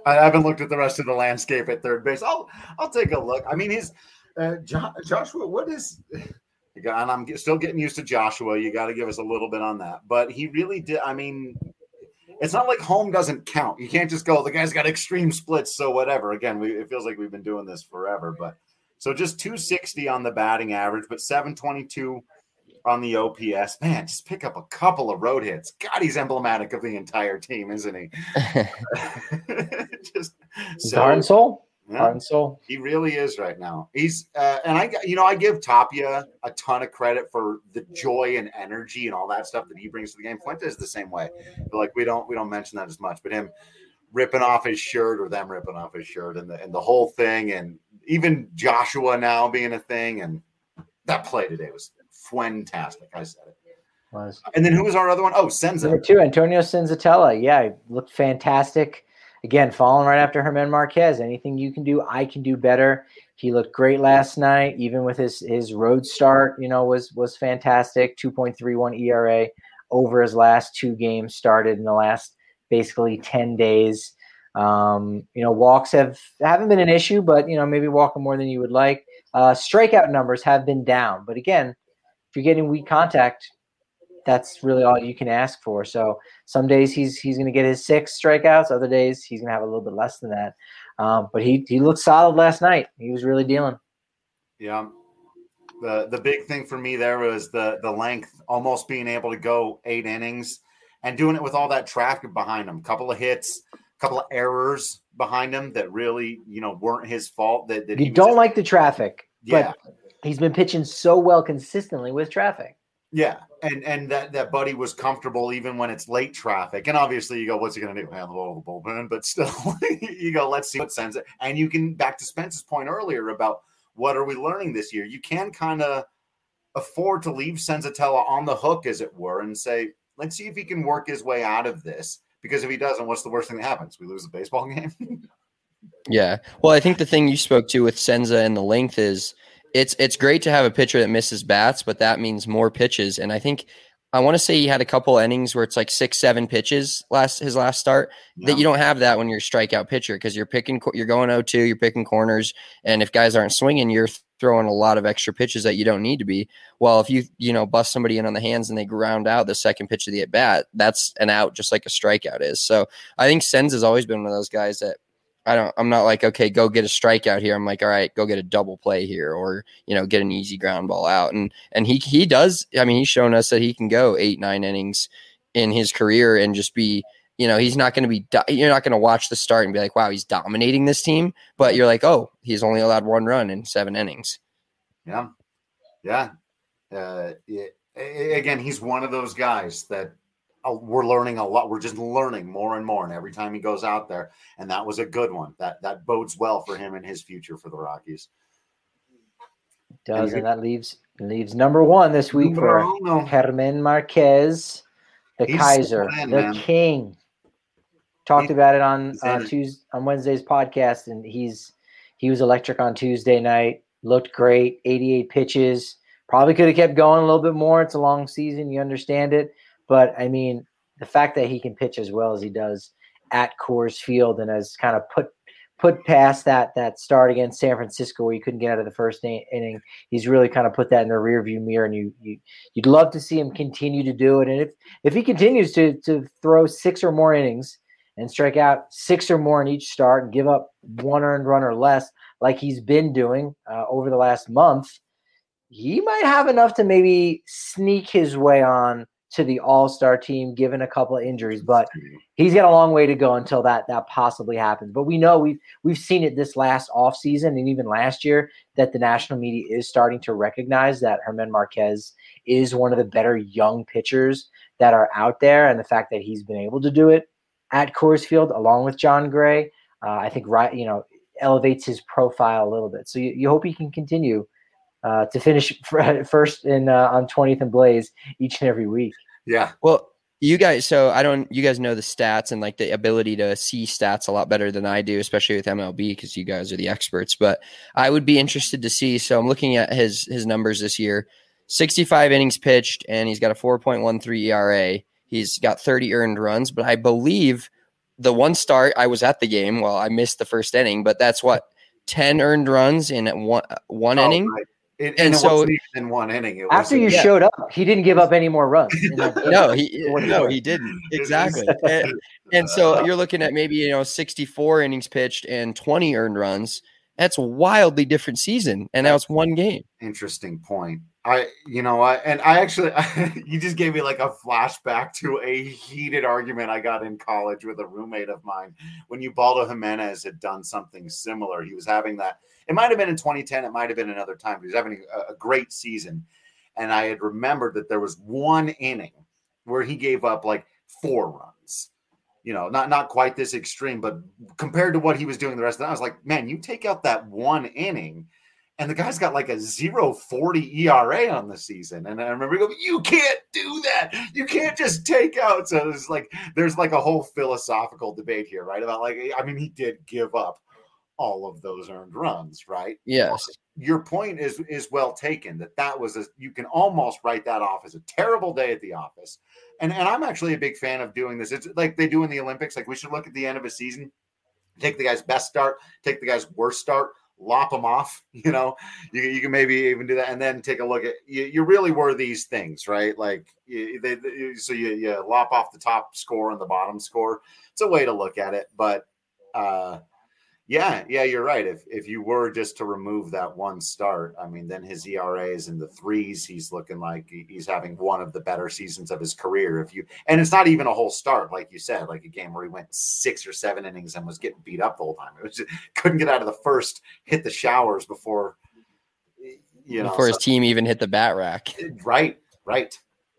I haven't looked at the rest of the landscape at third base. I'll I'll take a look. I mean, his uh, jo- Joshua. What is? And I'm still getting used to Joshua. You got to give us a little bit on that. But he really did. I mean, it's not like home doesn't count. You can't just go, the guy's got extreme splits, so whatever. Again, we, it feels like we've been doing this forever. But so just two sixty on the batting average, but seven twenty-two on the O P S. Man, just pick up a couple of road hits. God, he's emblematic of the entire team, isn't he? just so, heart and soul. Yeah, heart and soul. He really is right now. He's uh, and I, you know, I give Tapia a ton of credit for the joy and energy and all that stuff that he brings to the game. Fuentes is the same way. But like we don't we don't mention that as much, but him ripping off his shirt or them ripping off his shirt and the and the whole thing, and even Joshua now being a thing, and that play today was fantastic. I said it. Was. And then who was our other one? Oh, Senza. Number two, Antonio Senzatella. Yeah, he looked fantastic. Again, following right after Germán Marquez. Anything you can do, I can do better. He looked great last night, even with his his road start, you know, was was fantastic. two point three one E R A over his last two games started in the last basically ten days. Um, you know, walks have haven't been an issue, but, you know, maybe walking more than you would like. Uh, strikeout numbers have been down. But again, if you're getting weak contact, that's really all you can ask for. So some days he's he's going to get his six strikeouts. Other days he's going to have a little bit less than that. Um, but he he looked solid last night. He was really dealing. Yeah. The the big thing for me there was the the length, almost being able to go eight innings and doing it with all that traffic behind him. Couple of hits, couple of errors behind him that really, you know, weren't his fault. That, that you don't just, like the traffic, yeah. But he's been pitching so well consistently with traffic. Yeah, and and that, that Buddy was comfortable even when it's late traffic. And obviously you go, what's he going to do? Handle the bullpen? But still, you go, let's see what sends it. And you can, back to Spence's point earlier about what are we learning this year? You can kind of afford to leave Senzatella on the hook, as it were, and say, let's see if he can work his way out of this. Because if he doesn't, what's the worst thing that happens? We lose the baseball game? Yeah. Well, I think the thing you spoke to with Senza and the length is it's it's great to have a pitcher that misses bats, but that means more pitches. And I think I want to say he had a couple innings where it's like six, seven pitches last his last start. Yeah. That you don't have that when you're a strikeout pitcher because you're picking you're going oh two, you're picking corners, and if guys aren't swinging, you're throwing a lot of extra pitches that you don't need to be. Well, if you you know bust somebody in on the hands and they ground out the second pitch of the at bat, that's an out, just like a strikeout is. So I think Senz has always been one of those guys that. I don't, I'm not like, okay, go get a strikeout here. I'm like, all right, go get a double play here or, you know, get an easy ground ball out. And, and he, he does, I mean, he's shown us that he can go eight, nine innings in his career and just be, you know, he's not going to be, you're not going to watch the start and be like, wow, he's dominating this team. But you're like, oh, he's only allowed one run in seven innings. Yeah. Yeah. Uh, yeah. Again, he's one of those guys that, we're learning a lot. We're just learning more and more. And every time he goes out there, and that was a good one. That that bodes well for him and his future for the Rockies. It does, and, and that leaves leaves number one this week for Germán Marquez, the He's Kaiser, the, the King. Talked he's, about it on uh, Tuesday on Wednesday's podcast, and he's he was electric on Tuesday night. Looked great, eighty-eight pitches. Probably could have kept going a little bit more. It's a long season, you understand it. But, I mean, the fact that he can pitch as well as he does at Coors Field and has kind of put put past that that start against San Francisco where you couldn't get out of the first inning, he's really kind of put that in the rearview mirror, and you, you, you'd love to see him continue to do it. And if, if he continues to, to throw six or more innings and strike out six or more in each start and give up one earned run or less like he's been doing uh, over the last month, he might have enough to maybe sneak his way on to the all-star team, given a couple of injuries, but he's got a long way to go until that that possibly happens. But we know we've we've seen it this last offseason and even last year that the national media is starting to recognize that Germán Marquez is one of the better young pitchers that are out there, and the fact that he's been able to do it at Coors Field along with Jon Gray, uh, I think right you know elevates his profile a little bit. So you, you hope he can continue uh, to finish first in uh, on twentieth and Blaze each and every week. Yeah. Well, you guys, so I don't, you guys know the stats and like the ability to see stats a lot better than I do, especially with M L B, because you guys are the experts. But I would be interested to see. So I'm looking at his his numbers this year: sixty-five innings pitched, and he's got a four point one three E R A. He's got thirty earned runs, but I believe the one start, I was at the game. Well, I missed the first inning, but that's what ten earned runs in one one oh, inning. Right. It, and and it so wasn't even in one inning. It After was, you yeah. showed up, he didn't give up any more runs. In that no, he What no, for? he didn't exactly. and, and so you're looking at maybe you know sixty-four innings pitched and twenty earned runs. That's a wildly different season, and now it's one game. Interesting point. I, you know, I and I actually, you just gave me like a flashback to a heated argument I got in college with a roommate of mine when Ubaldo Jimenez had done something similar. He was having that. It might have been in twenty ten. It might have been another time. He was having a, a great season, and I had remembered that there was one inning where he gave up like four runs. You know, not not quite this extreme, but compared to what he was doing the rest of the time, I was like, man, you take out that one inning. And the guy's got like a zero forty E R A on the season. And I remember going, you can't do that. You can't just take out. So it's like, there's like a whole philosophical debate here, right? About like, I mean, he did give up all of those earned runs, right? Yes. Your point is, is well taken that that was, a, you can almost write that off as a terrible day at the office. And, and I'm actually a big fan of doing this. It's like they do in the Olympics. Like we should look at the end of a season, take the guy's best start, take the guy's worst start, lop them off, you know, you, you can maybe even do that. And then take a look at, you, you really were these things, right? Like you, they, they, so you, you lop off the top score and the bottom score. It's a way to look at it, but uh, yeah, yeah, you're right. If, if you were just to remove that one start, I mean, then his E R A is in the threes. He's looking like he's having one of the better seasons of his career. If you, and it's not even a whole start, like you said, like a game where he went six or seven innings and was getting beat up the whole time. It was just, couldn't get out of the first, hit the showers before, you know, before his so, team even hit the bat rack. Right, right.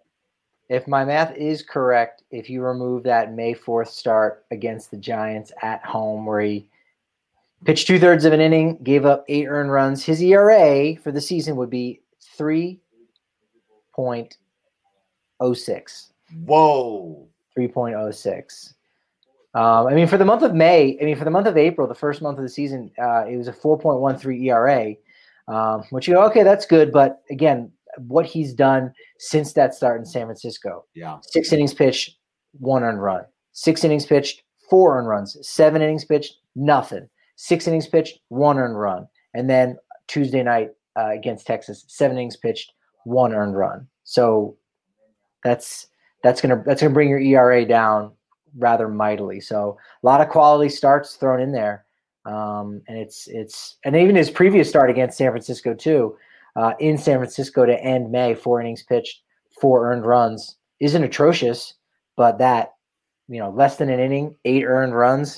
If my math is correct, if you remove that May fourth start against the Giants at home where he pitched two thirds of an inning, gave up eight earned runs, his E R A for the season would be three point oh six. Whoa. three point oh six. Um, I mean, for the month of May, I mean, for the month of April, the first month of the season, uh, it was a four point one three E R A, um, which you go, okay, that's good. But again, what he's done since that start in San Francisco. Yeah. Six innings pitched, one earned run. Six innings pitched, four earned runs. Seven innings pitched, nothing. Six innings pitched, one earned run. And then Tuesday night uh, against Texas, seven innings pitched, one earned run. So that's that's gonna that's gonna bring your E R A down rather mightily. So a lot of quality starts thrown in there. Um, and it's it's and even his previous start against San Francisco too, uh, in San Francisco to end May, four innings pitched, four earned runs, isn't atrocious, but that, you know, less than an inning, eight earned runs.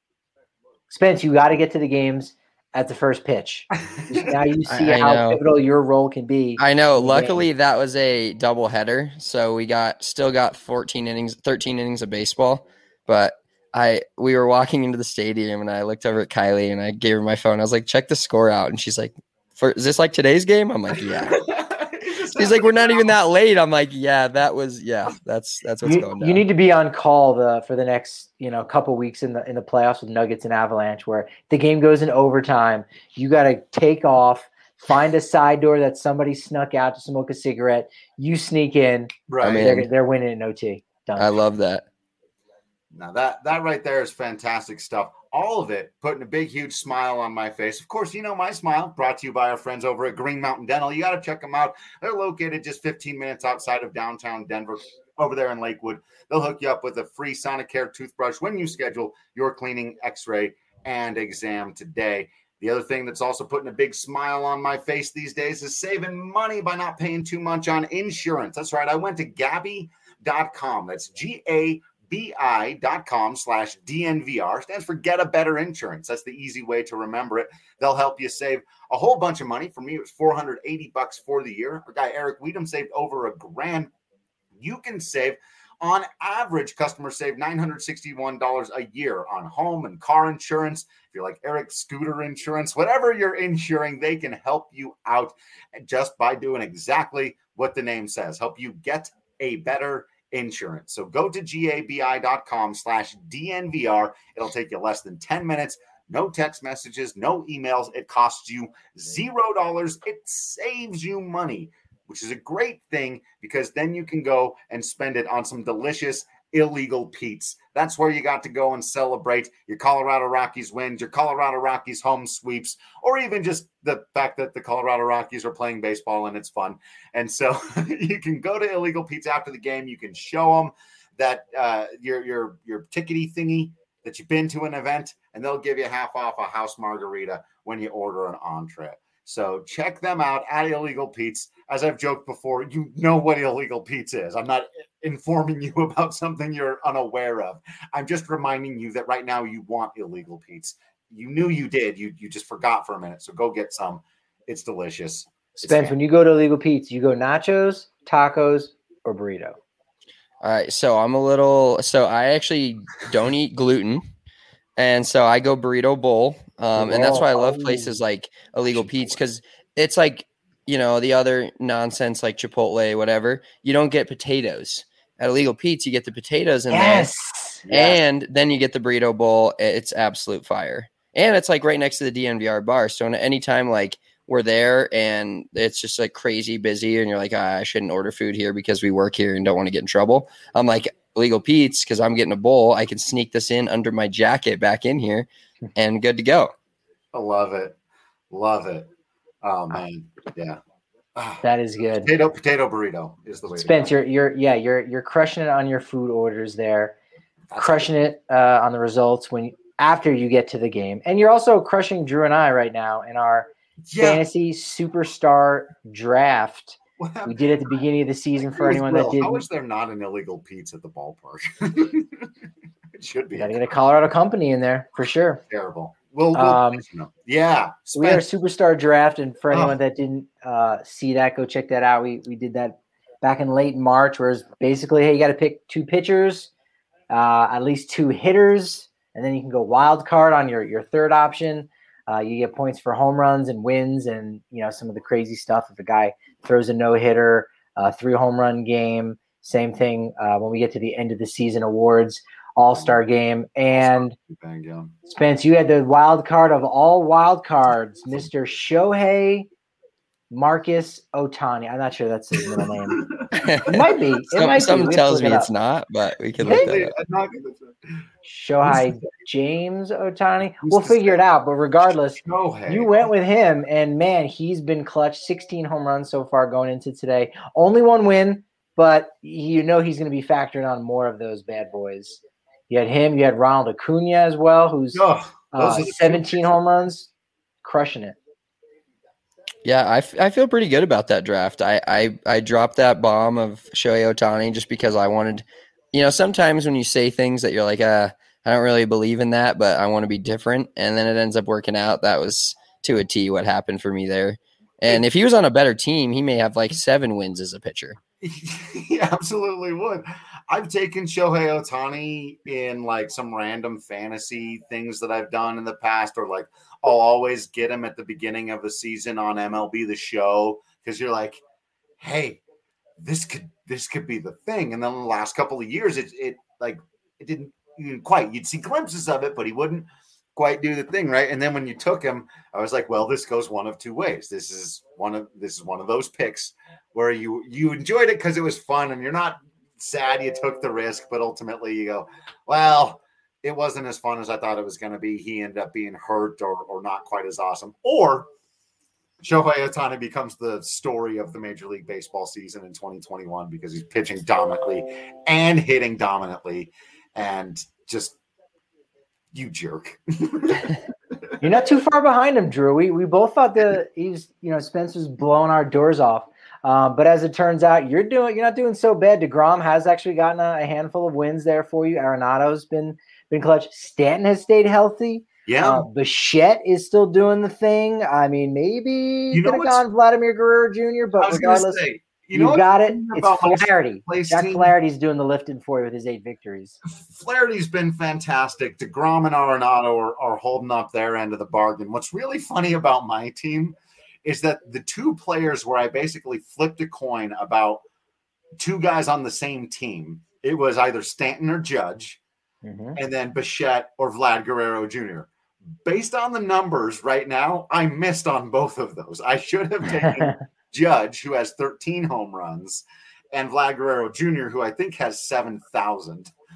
Spence, you got to get to the games at the first pitch. Now you see I, I how know. pivotal your role can be. I know. Luckily, that was a double header, so we got still got fourteen innings, thirteen innings of baseball. But I we were walking into the stadium, and I looked over at Kylie, and I gave her my phone. I was like, "Check the score out," and she's like, For, "Is this like today's game?" I'm like, "Yeah." He's like, "We're not even that late." I'm like, "Yeah, that was yeah, that's that's what's you, going down." You need to be on call the for the next you know couple weeks in the in the playoffs with Nuggets and Avalanche, where the game goes in overtime. You got to take off, find a side door that somebody snuck out to smoke a cigarette. You sneak in, Right. I'm in. they're they're winning in O T. Done. I love that. Now that that right there is fantastic stuff. All of it putting a big, huge smile on my face. Of course, you know my smile, brought to you by our friends over at Green Mountain Dental. You got to check them out. They're located just fifteen minutes outside of downtown Denver, over there in Lakewood. They'll hook you up with a free Sonicare toothbrush when you schedule your cleaning, x-ray, and exam today. The other thing that's also putting a big smile on my face these days is saving money by not paying too much on insurance. That's right. I went to Gabi dot com. That's G A B I dot com slash D N V R. Stands for Get a Better Insurance. That's the easy way to remember it. They'll help you save a whole bunch of money. For me, it was four hundred eighty bucks for the year. Our guy Eric Weedham saved over a grand. You can save, on average, customers save nine hundred sixty-one dollars a year on home and car insurance. If you're like Eric, scooter insurance, whatever you're insuring, they can help you out just by doing exactly what the name says. Help you get a better insurance. So go to G A B I dot com slash D N V R. It'll take you less than ten minutes. No text messages, no emails. It costs you zero dollars. It saves you money, which is a great thing because then you can go and spend it on some delicious Illegal Pete's. That's where you got to go and celebrate your Colorado Rockies wins, your Colorado Rockies home sweeps, or even just the fact that the Colorado Rockies are playing baseball and it's fun. And so you can go to Illegal Pete's after the game. You can show them that uh, your your your tickety thingy that you've been to an event, and they'll give you half off a house margarita when you order an entree. So check them out at Illegal Pete's. As I've joked before, you know what Illegal Pete's is. I'm not informing you about something you're unaware of. I'm just reminding you that right now you want Illegal Pete's. You knew you did. You you just forgot for a minute. So go get some. It's delicious. Spence, when you go to Illegal Pete's, you go nachos, tacos, or burrito? All right. So I'm a little – so I actually don't eat gluten. And so I go burrito bowl. Um, and that's why I love places like Illegal Pete's, because it's like, you know, the other nonsense like Chipotle, whatever. You don't get potatoes. At Illegal Pete's, you get the potatoes in yes. there. Yes. And then you get the burrito bowl. It's absolute fire. And it's like right next to the D N V R bar. So anytime like we're there and it's just like crazy busy and you're like, ah, I shouldn't order food here because we work here and don't want to get in trouble, I'm like, Illegal Pete's, because I'm getting a bowl. I can sneak this in under my jacket back in here and good to go. I love it. Love it. Oh, man. Yeah. That is good. Potato potato burrito is the way. Spence, you're you're yeah, you're you're crushing it on your food orders there. That's crushing it uh, on the results when after you get to the game. And you're also crushing Drew and I right now in our yeah. fantasy superstar draft. We did at the beginning of the season for anyone that didn't. How is there not an Illegal Pete's at the ballpark? It should be. Got to get a Colorado company in there for sure. Terrible. We'll, we'll um, you know. Yeah. So we had a superstar draft, and for anyone oh. that didn't uh, see that, go check that out. We we did that back in late March, where it's basically, hey, you got to pick two pitchers, uh, at least two hitters, and then you can go wild card on your your third option. Uh, you get points for home runs and wins, and you know some of the crazy stuff. If a guy throws a no hitter, uh, three home run game, same thing. Uh, when we get to the end of the season awards. All-Star game. And Spence, you had the wild card of all wild cards, Mister Shohei Marcus Ohtani. I'm not sure that's his middle name. It might be. It Some, might something be. tells me it it's not, but we can look that up. Shohei James Ohtani. We'll figure it out, but regardless, you went with him, and man, he's been clutch. sixteen home runs so far going into today. Only one win, but you know he's going to be factoring on more of those bad boys. You had him. You had Ronald Acuna as well, who's oh, uh, seventeen home runs, crushing it. Yeah, I, f- I feel pretty good about that draft. I, I, I dropped that bomb of Shohei Ohtani just because I wanted – you know, sometimes when you say things that you're like, uh, I don't really believe in that, but I want to be different, and then it ends up working out. That was to a T what happened for me there. And if he was on a better team, he may have like seven wins as a pitcher. He absolutely would. I've taken Shohei Ohtani in like some random fantasy things that I've done in the past, or like I'll always get him at the beginning of the season on M L B The Show because you're like, hey, this could this could be the thing. And then the last couple of years, it it like it didn't, you didn't quite. You'd see glimpses of it, but he wouldn't quite do the thing, right? And then when you took him, I was like, well, this goes one of two ways. This is one of this is one of those picks where you you enjoyed it because it was fun, and you're not sad you took the risk, but ultimately you go, well, it wasn't as fun as I thought it was going to be. He ended up being hurt or or not quite as awesome. Or Shohei Ohtani becomes the story of the Major League Baseball season in twenty twenty-one because he's pitching dominantly and hitting dominantly, and just you jerk. You're not too far behind him, Drew. We we both thought that he's, you know, Spencer's blowing our doors off. Um, but as it turns out, you're doing you're not doing so bad. DeGrom has actually gotten a, a handful of wins there for you. Arenado's been been clutch. Stanton has stayed healthy. Yeah. Uh, Bichette is still doing the thing. I mean, maybe you could have gone Vladimir Guerrero Junior, but regardless, say, you, you know got it. It's Flaherty. Jack Flaherty's doing the lifting for you with his eight victories. Flaherty's been fantastic. DeGrom and Arenado are, are holding up their end of the bargain. What's really funny about my team is that the two players where I basically flipped a coin about two guys on the same team, it was either Stanton or Judge, mm-hmm. and then Bichette or Vlad Guerrero Junior Based on the numbers right now, I missed on both of those. I should have taken Judge, who has thirteen home runs, and Vlad Guerrero Junior, who I think has seven thousand.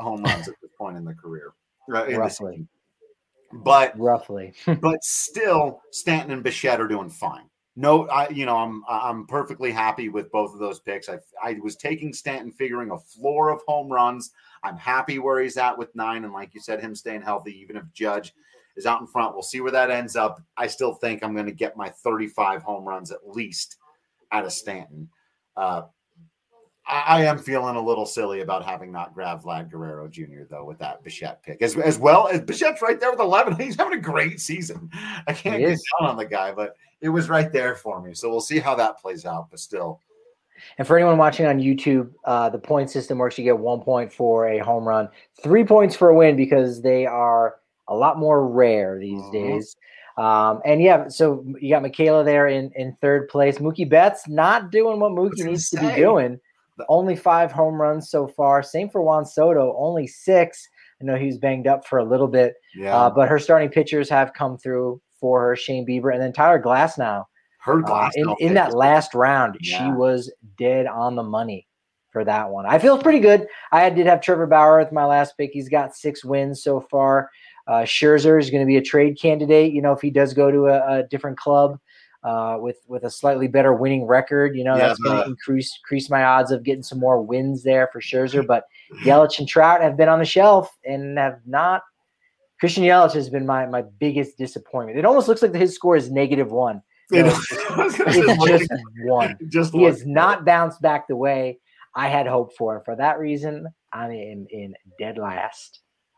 home runs at this point in the career. Uh, in Roughly. The but Roughly. but still, Stanton and Bichette are doing fine. No, I you know I'm I'm perfectly happy with both of those picks. I I was taking Stanton, figuring a floor of home runs. I'm happy where he's at with nine, and like you said, him staying healthy, even if Judge is out in front. We'll see where that ends up. I still think I'm going to get my thirty-five home runs at least out of Stanton. Uh, I, I am feeling a little silly about having not grabbed Vlad Guerrero Junior though with that Bichette pick, as as well as Bichette's right there with eleven. He's having a great season. I can't He get is. down on the guy, but it was right there for me. So we'll see how that plays out. But still, And for anyone watching on YouTube, uh, the point system works. You get one point for a home run, three points for a win because they are a lot more rare these Mhm. days. Um, and yeah, so you got Michaela there in, in third place. Mookie Betts not doing what Mookie gonna needs to say. be doing. Only five home runs so far. Same for Juan Soto, only six. I know he was banged up for a little bit, yeah, uh, but her starting pitchers have come through for her. Shane Bieber and then Tyler Glasnow. her Uh, glass in, in that last round, Yeah. she was dead on the money for that one. I feel pretty good. I did have Trevor Bauer with my last pick. He's got six wins so far. Uh, Scherzer is going to be a trade candidate. You know, if he does go to a, a different club uh, with with a slightly better winning record, you know, Yeah, that's going the- to increase increase my odds of getting some more wins there for Scherzer. But Yelich and Trout have been on the shelf and have not. Christian Yelich has been my my biggest disappointment. It almost looks like his score is negative one. You know, It's just one. just He look- has not bounced back the way I had hoped for. And for that reason, I'm in, in dead last.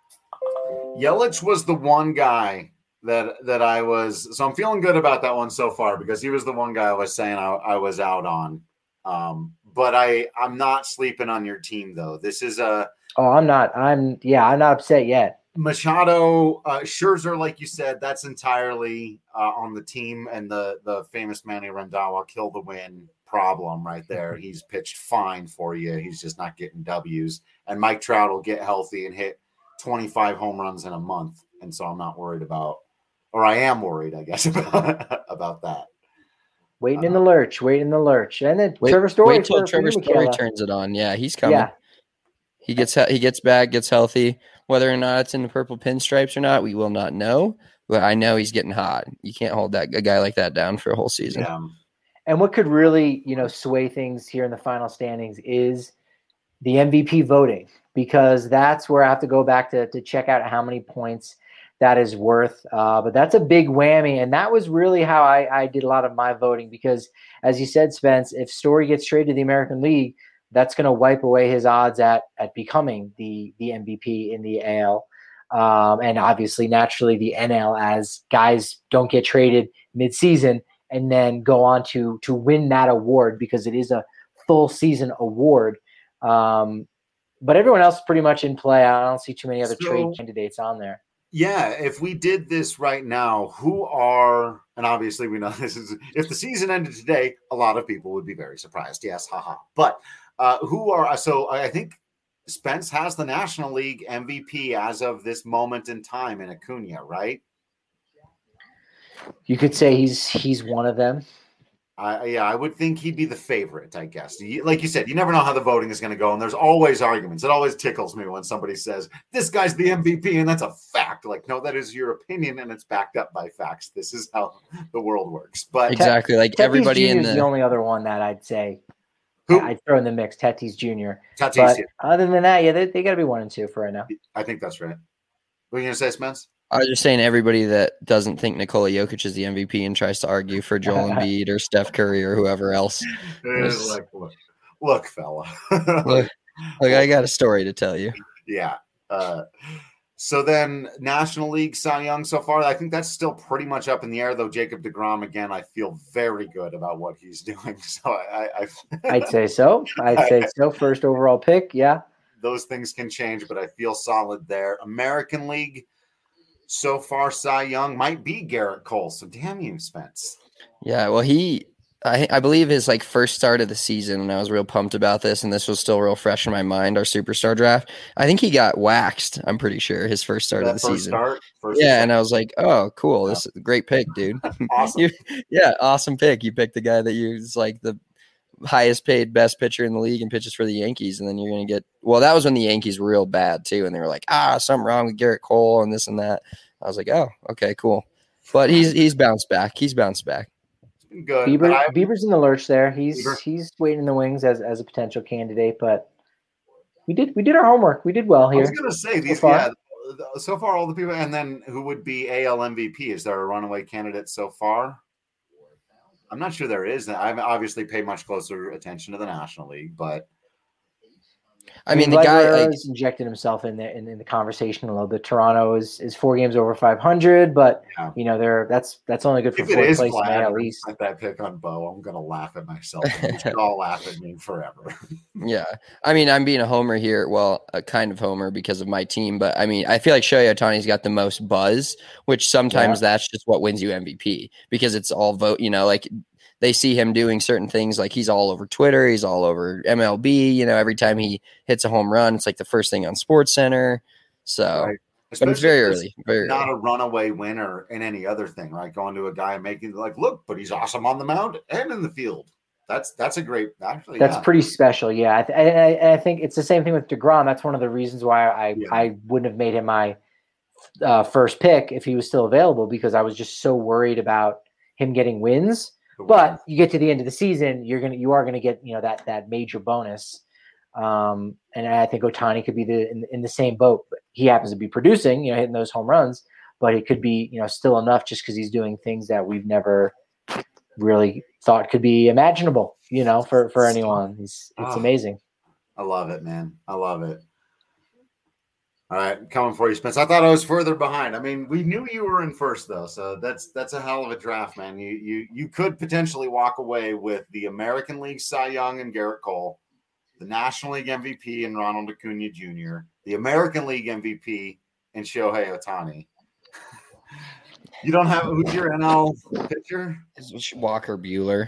Yelich was the one guy that that I was. So I'm feeling good about that one so far because he was the one guy I was saying I, I was out on. Um, but I I'm not sleeping on your team though. This is a Oh, I'm not. I'm yeah. I'm not upset yet. Machado, uh, Scherzer, like you said, that's entirely uh, on the team and the the famous Manny Randhawa kill the win problem right there. He's pitched fine for you. He's just not getting W's. And Mike Trout will get healthy and hit twenty-five home runs in a month. And so I'm not worried about, or I am worried, I guess, about, about that. Waiting in the lurch. Waiting in the lurch. And then Wait, Trevor Story. wait till for, Trevor for you, Story Michaela. turns it on. Yeah, he's coming. Yeah. He gets he gets back, gets healthy. Whether or not it's in the purple pinstripes or not, we will not know. But I know he's getting hot. You can't hold that a guy like that down for a whole season. Yeah. And what could really, you know, sway things here in the final standings is the M V P voting, because that's where I have to go back to to check out how many points that is worth. Uh, but that's a big whammy, and that was really how I, I did a lot of my voting. Because, as you said, Spence, if Story gets traded to the American League, that's going to wipe away his odds at at becoming the the M V P in the A L. Um, and obviously, naturally, the N L, as guys don't get traded midseason and then go on to to win that award because it is a full season award. Um, but everyone else is pretty much in play. I don't see too many other So- trade candidates on there. Yeah, if we did this right now, who are, and obviously we know this is, if the season ended today, a lot of people would be very surprised. Yes, haha. But uh, who are, so I think Spence has the National League M V P as of this moment in time in Acuna, right? You could say he's he's one of them. Uh, yeah, I would think he'd be the favorite, I guess. You, like you said, you never know how the voting is going to go, and there's always arguments. It always tickles me when somebody says, this guy's the M V P, and that's a fact. Like, no, that is your opinion, and it's backed up by facts. This is how the world works. But Exactly. Like Tatis everybody in Junior is the, the only other one that I'd say who? I'd throw in the mix. Tatis Junior Tatis, But other than that, yeah, they, they got to be one and two for right now. I think that's right. What are you going to say, Spence? I was just saying everybody that doesn't think Nikola Jokic is the M V P and tries to argue for Joel Embiid or Steph Curry or whoever else. It's like, look, look, fella. Look, look, I got a story to tell you. Yeah. Uh, so then National League Cy Young so far, I think that's still pretty much up in the air, though. Jacob deGrom, again, I feel very good about what he's doing. So I, I, I'd say so. I'd say so. First overall pick, yeah. those things can change, but I feel solid there. American League, so far, Cy Young might be Garrett Cole. So damn you, Spence. Yeah, well, he, I, I believe his like first start of the season, and I was real pumped about this, and this was still real fresh in my mind. Our superstar draft, I think he got waxed. I'm pretty sure his first start That of the first season. Start, first Yeah, start. and I was like, oh, cool, this is a great pick, dude. Awesome. You- yeah, awesome pick. You picked the guy that you was like the highest paid best pitcher in the league and pitches for the Yankees, and then you're going to get – well, that was when the Yankees were real bad too, and they were like, ah, something wrong with Garrett Cole and this and that. I was like, oh, okay, cool. But he's he's bounced back. He's bounced back. It's been good. Bieber, I, Bieber's in the lurch there. He's Bieber. he's waiting in the wings as, as a potential candidate, but we did we did our homework. We did well here. I was going to say, these so far. yeah, so far all the people – and then who would be A L M V P? Is there a runaway candidate so far? I'm not sure there is. I obviously pay much closer attention to the National League, but I mean, the guy like, has injected himself in the in, in the conversation a little bit. Toronto is, is four games over five hundred, but yeah. you know they're that's that's only good for if fourth it is place Vlad, at least. Like that pick on Bo, I'm gonna laugh at myself. You should all laugh at me forever. Yeah, I mean, I'm being a homer here. Well, a kind of homer because of my team, but I mean, I feel like Shohei Ohtani's got the most buzz, which sometimes yeah. that's just what wins you M V P because it's all vote. You know, like. They see him doing certain things like he's all over Twitter. He's all over M L B. You know, every time he hits a home run, it's like the first thing on Sports Center. So, right. But it's very early. Very not early. a runaway winner in any other thing, right? Going to a guy and making like, look, but he's awesome on the mound and in the field. That's that's a great. Actually, that's yeah. pretty special. Yeah, I, th- I, I think it's the same thing with DeGrom. That's one of the reasons why I Yeah. I wouldn't have made him my uh, first pick if he was still available because I was just so worried about him getting wins. But you get to the end of the season, you're gonna you are gonna get you know that that major bonus, um, and I think Ohtani could be the in, in the same boat. He happens to be producing, you know, hitting those home runs, but it could be you know still enough just because he's doing things that we've never really thought could be imaginable, you know, for for anyone. It's it's oh, amazing. I love it, man. I love it. All right, coming for you, Spence. I thought I was further behind. I mean, we knew you were in first, though, so that's that's a hell of a draft, man. You you you could potentially walk away with the American League Cy Young and Garrett Cole, the National League M V P and Ronald Acuna Junior, the American League M V P and Shohei Ohtani. You don't have who's your N L pitcher? Walker Buehler.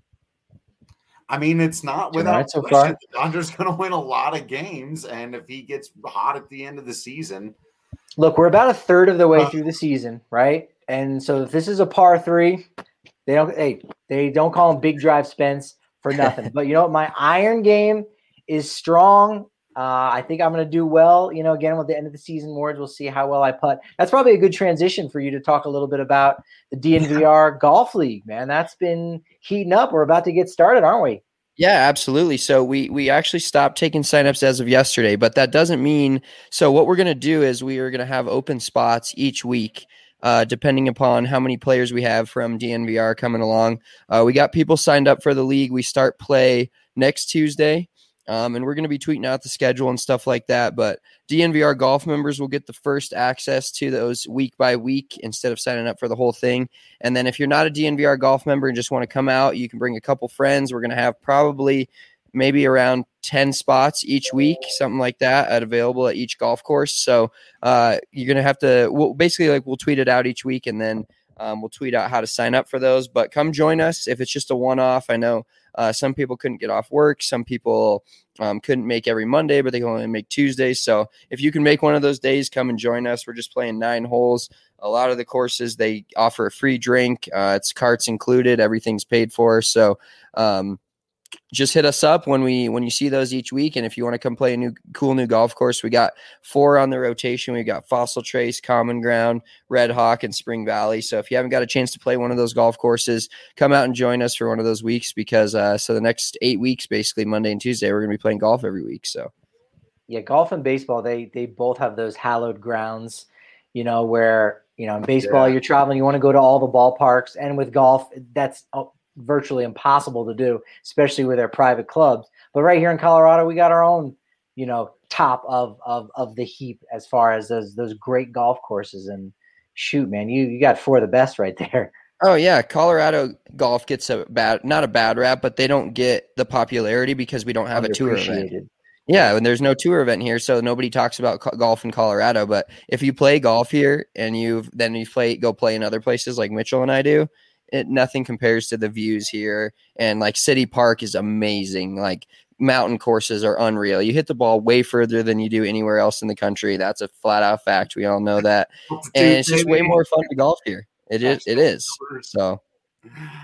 I mean, it's not without right so far. The Dodgers going to win a lot of games, and if he gets hot at the end of the season, look, we're about a third of the way uh, through the season, right? And so if this is a par three, they don't. Hey, they don't call him Big Drive Spence for nothing. But you know what? My iron game is strong. Uh, I think I'm going to do well. You know, again with the end of the season awards, we'll see how well I putt. That's probably a good transition for you to talk a little bit about the D N V R Golf League, man. That's been heating up. We're about to get started, aren't we? Yeah, absolutely. So we we actually stopped taking signups as of yesterday, but that doesn't mean – so what we're going to do is we are going to have open spots each week, uh, depending upon how many players we have from D N V R coming along. Uh, we got people signed up for the league. We start play next Tuesday. Um, and we're going to be tweeting out the schedule and stuff like that. But D N V R golf members will get the first access to those week by week instead of signing up for the whole thing. And then if you're not a D N V R golf member and just want to come out, you can bring a couple friends. We're going to have probably maybe around ten spots each week, something like that, at available at each golf course. So uh, you're going to have to we'll, basically like we'll tweet it out each week and then um, we'll tweet out how to sign up for those. But come join us if it's just a one-off. I know Uh, some people couldn't get off work. Some people um, couldn't make every Monday, but they can only make Tuesdays. So if you can make one of those days, come and join us. We're just playing nine holes. A lot of the courses, they offer a free drink. Uh, it's carts included. Everything's paid for. So um, just hit us up when we when you see those each week. And if you want to come play a new cool new golf course, we got four on the rotation. We got Fossil Trace, Common Ground, Red Hawk, and Spring Valley. So if you haven't got a chance to play one of those golf courses, come out and join us for one of those weeks because uh, so the next eight weeks, basically Monday and Tuesday, we're going to be playing golf every week. So yeah, golf and baseball, they they both have those hallowed grounds, you know, where you know in baseball Yeah. you're traveling, you want to go to all the ballparks, and with golf, that's oh, virtually impossible to do, especially with our private clubs. But right here in Colorado, we got our own, you know, top of of of the heap as far as those those great golf courses. And shoot, man, you you got four of the best right there. Oh yeah, Colorado golf gets a bad, not a bad rap, but they don't get the popularity because we don't have a tour event. Yeah, and there's no tour event here, so nobody talks about co- golf in Colorado. But if you play golf here and you've then you play go play in other places like Mitchell and I do, it nothing compares to the views here. And like City Park is amazing. Like mountain courses are unreal. You hit the ball way further than you do anywhere else in the country. That's a flat out fact. We all know that, and it's just way more fun to golf here. It is. It is. So,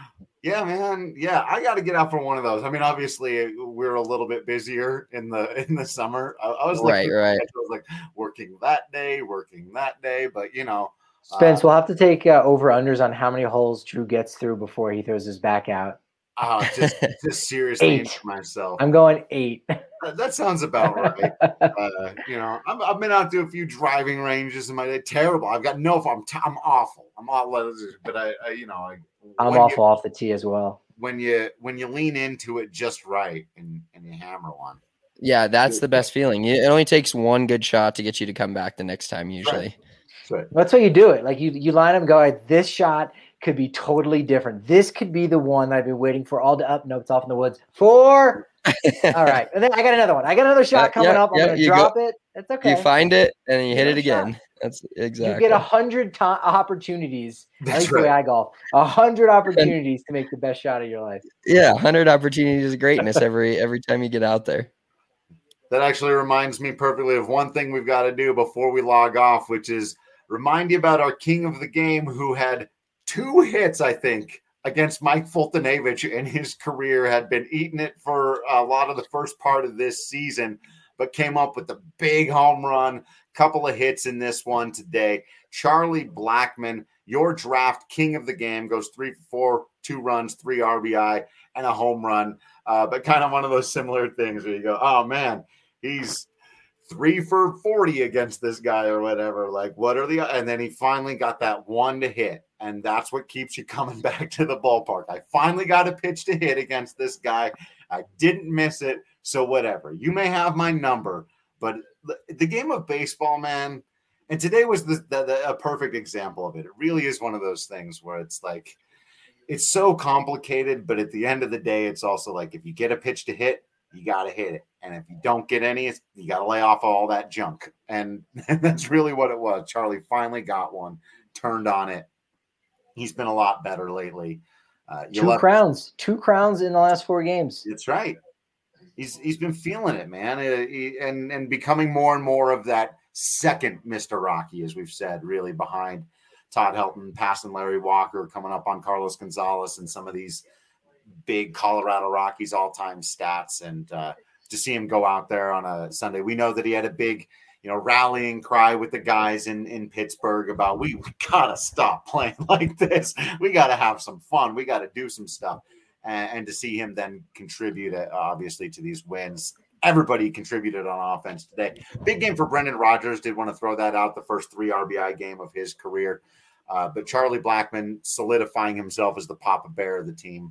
Yeah, man. Yeah, I got to get out for one of those. I mean, obviously, we're a little bit busier in the in the summer. I, I was right, looking, right. I was like working that day, working that day, but you know, Spence, uh, we'll have to take uh, over unders on how many holes Drew gets through before he throws his back out. uh just just seriously Eight. into myself. I'm going eight. That, that sounds about right. uh, you know, I'm, I've been out to a few driving ranges in my day. Terrible. I've got no. I'm t- I'm awful. I'm awful. But I, I you know, I, I'm awful you, off the tee as well. When you when you lean into it just right and, and you hammer one. Yeah, that's the best feeling. It only takes one good shot to get you to come back the next time usually. Right. That's right. That's how you do it. Like you you line up and go, right, this shot could be totally different. This could be the one that I've been waiting for all the up. No, it's off in the woods. Four. All right. And then I got another one. I got another shot coming uh, yeah, up. I'm yeah, going to drop go, it. It's okay. You find it and then you hit it again. Shot. That's exactly. You get a hundred to- opportunities. That's I think right. the way I golf. A hundred opportunities to make the best shot of your life. Yeah, a hundred opportunities of greatness every every time you get out there. That actually reminds me perfectly of one thing we've got to do before we log off, which is remind you about our king of the game who had two hits, I think, against Mike Fultonavich in his career, had been eating it for a lot of the first part of this season, but came up with a big home run, couple of hits in this one today. Charlie Blackmon, your draft king of the game, goes three for four, two runs, three R B I, and a home run. Uh, but kind of one of those similar things where you go, oh, man, he's three for forty against this guy or whatever. Like, what are the – and then he finally got that one to hit. And that's what keeps you coming back to the ballpark. I finally got a pitch to hit against this guy. I didn't miss it. So whatever. You may have my number, but the game of baseball, man, and today was the, the, the, a perfect example of it. It really is one of those things where it's like, it's so complicated, but at the end of the day, it's also like, if you get a pitch to hit, you got to hit it. And if you don't get any, you got to lay off all that junk. And, and that's really what it was. Charlie finally got one, turned on it. He's been a lot better lately. Uh, two love- crowns, two crowns in the last four games. That's right. He's he's been feeling it, man, uh, he, and and becoming more and more of that second Mister Rocky, as we've said, really behind Todd Helton, passing Larry Walker, coming up on Carlos Gonzalez, and some of these big Colorado Rockies all-time stats. And uh, to see him go out there on a Sunday, we know that he had a big, you know, rallying cry with the guys in, in Pittsburgh about, we, we got to stop playing like this. We got to have some fun. We got to do some stuff. And, and to see him then contribute, uh, obviously, to these wins. Everybody contributed on offense today. Big game for Brendan Rodgers. Did want to throw that out, the first three R B I game of his career. Uh, but Charlie Blackmon solidifying himself as the Papa Bear of the team.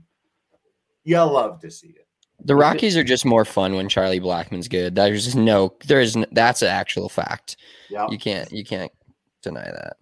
You'll love to see it. The Rockies are just more fun when Charlie Blackmon's good. There's just no, there is, no, that's an actual fact. Yep. You can't, you can't deny that.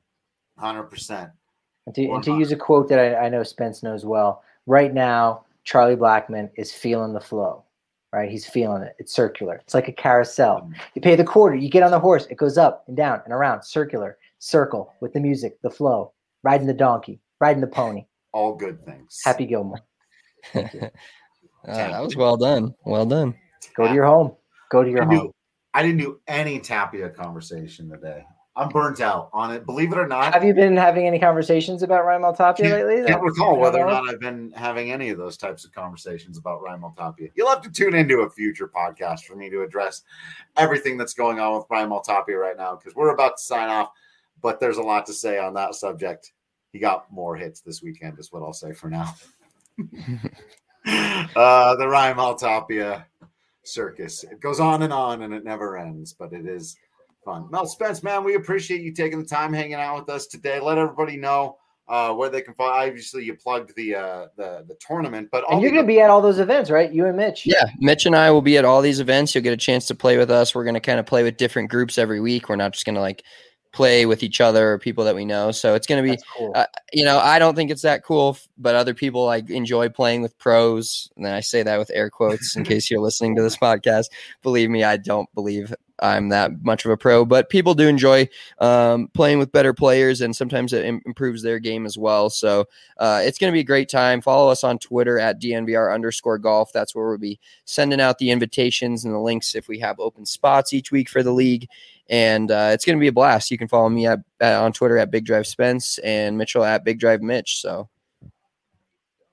one hundred percent. And to, and to use a quote that I, I know Spence knows well, right now, Charlie Blackmon is feeling the flow, right? He's feeling it. It's circular. It's like a carousel. Mm-hmm. You pay the quarter, you get on the horse, it goes up and down and around, circular, circle with the music, the flow, riding the donkey, riding the pony. All good things. Happy Gilmore. Thank you. Uh, that was well done. Well done. Go to your home. Go to your I home. Do, I didn't do any Tapia conversation today. I'm burnt out on it. Believe it or not. Have you been having any conversations about Raimel Tapia can't, lately? Can't recall whether or not I've been having any of those types of conversations about Raimel Tapia. You'll have to tune into a future podcast for me to address everything that's going on with Raimel Tapia right now, because we're about to sign off, but there's a lot to say on that subject. He got more hits this weekend is what I'll say for now. uh, the Raimel Tapia circus. It goes on and on and it never ends, but it is fun. Mel Spence, man, we appreciate you taking the time hanging out with us today. Let everybody know uh, where they can find. Obviously, you plugged the uh, the the tournament, but and you're going to be at all those events, right? You and Mitch. Yeah, Mitch and I will be at all these events. You'll get a chance to play with us. We're going to kind of play with different groups every week. We're not just going to like play with each other or people that we know. So it's going to be, cool. uh, you know, I don't think it's that cool, but other people like enjoy playing with pros. And then I say that with air quotes in case you're listening to this podcast. Believe me, I don't believe I'm that much of a pro, but people do enjoy um, playing with better players, and sometimes it im- improves their game as well. So uh, it's going to be a great time. Follow us on Twitter at D N V R underscore golf. That's where we'll be sending out the invitations and the links if we have open spots each week for the league. And uh, it's going to be a blast. You can follow me at, at on Twitter at Big Drive Spence and Mitchell at Big Drive Mitch. So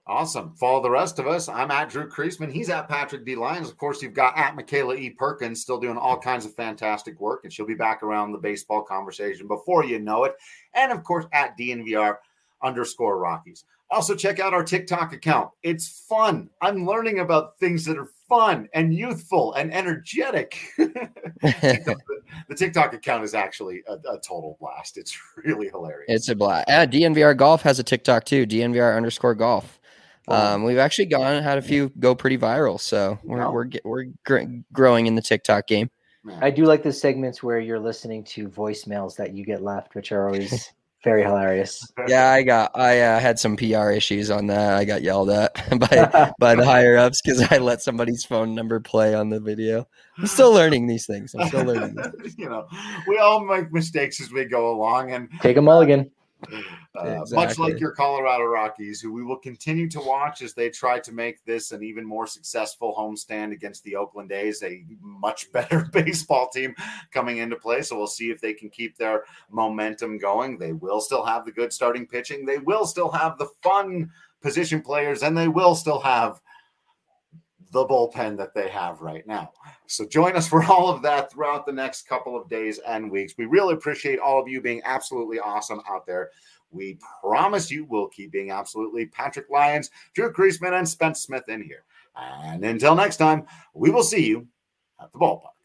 Awesome. Follow the rest of us. I'm at Drew Creasman. He's at Patrick D. Lyons. Of course, you've got at Michaela E. Perkins still doing all kinds of fantastic work, and she'll be back around the baseball conversation before you know it. And, of course, at D N V R underscore Rockies. Also, check out our TikTok account. It's fun. I'm learning about things that are fun and youthful and energetic. the, the TikTok account is actually a, a total blast. It's really hilarious. It's a blast. Yeah, D N V R Golf has a TikTok too. D N V R underscore golf. Um, we've actually gone had a few go pretty viral, so we're no. we're we're gr- growing in the TikTok game. I do like the segments where you're listening to voicemails that you get left, which are always very hilarious. Yeah, I got I uh, had some P R issues on that. I got yelled at by by the higher ups because I let somebody's phone number play on the video. I'm still learning these things. I'm still learning. These things. You know, we all make mistakes as we go along, and take a mulligan. Uh, exactly. Much like your Colorado Rockies, who we will continue to watch as they try to make this an even more successful homestand against the Oakland A's, a much better baseball team coming into play. So we'll see if they can keep their momentum going. They will still have the good starting pitching. They will still have the fun position players, and they will still have the bullpen that they have right now. So join us for all of that throughout the next couple of days and weeks. We really appreciate all of you being absolutely awesome out there. We promise you we'll keep being absolutely Patrick Lyons, Drew Creasman, and Spence Smith in here. And until next time, we will see you at the ballpark.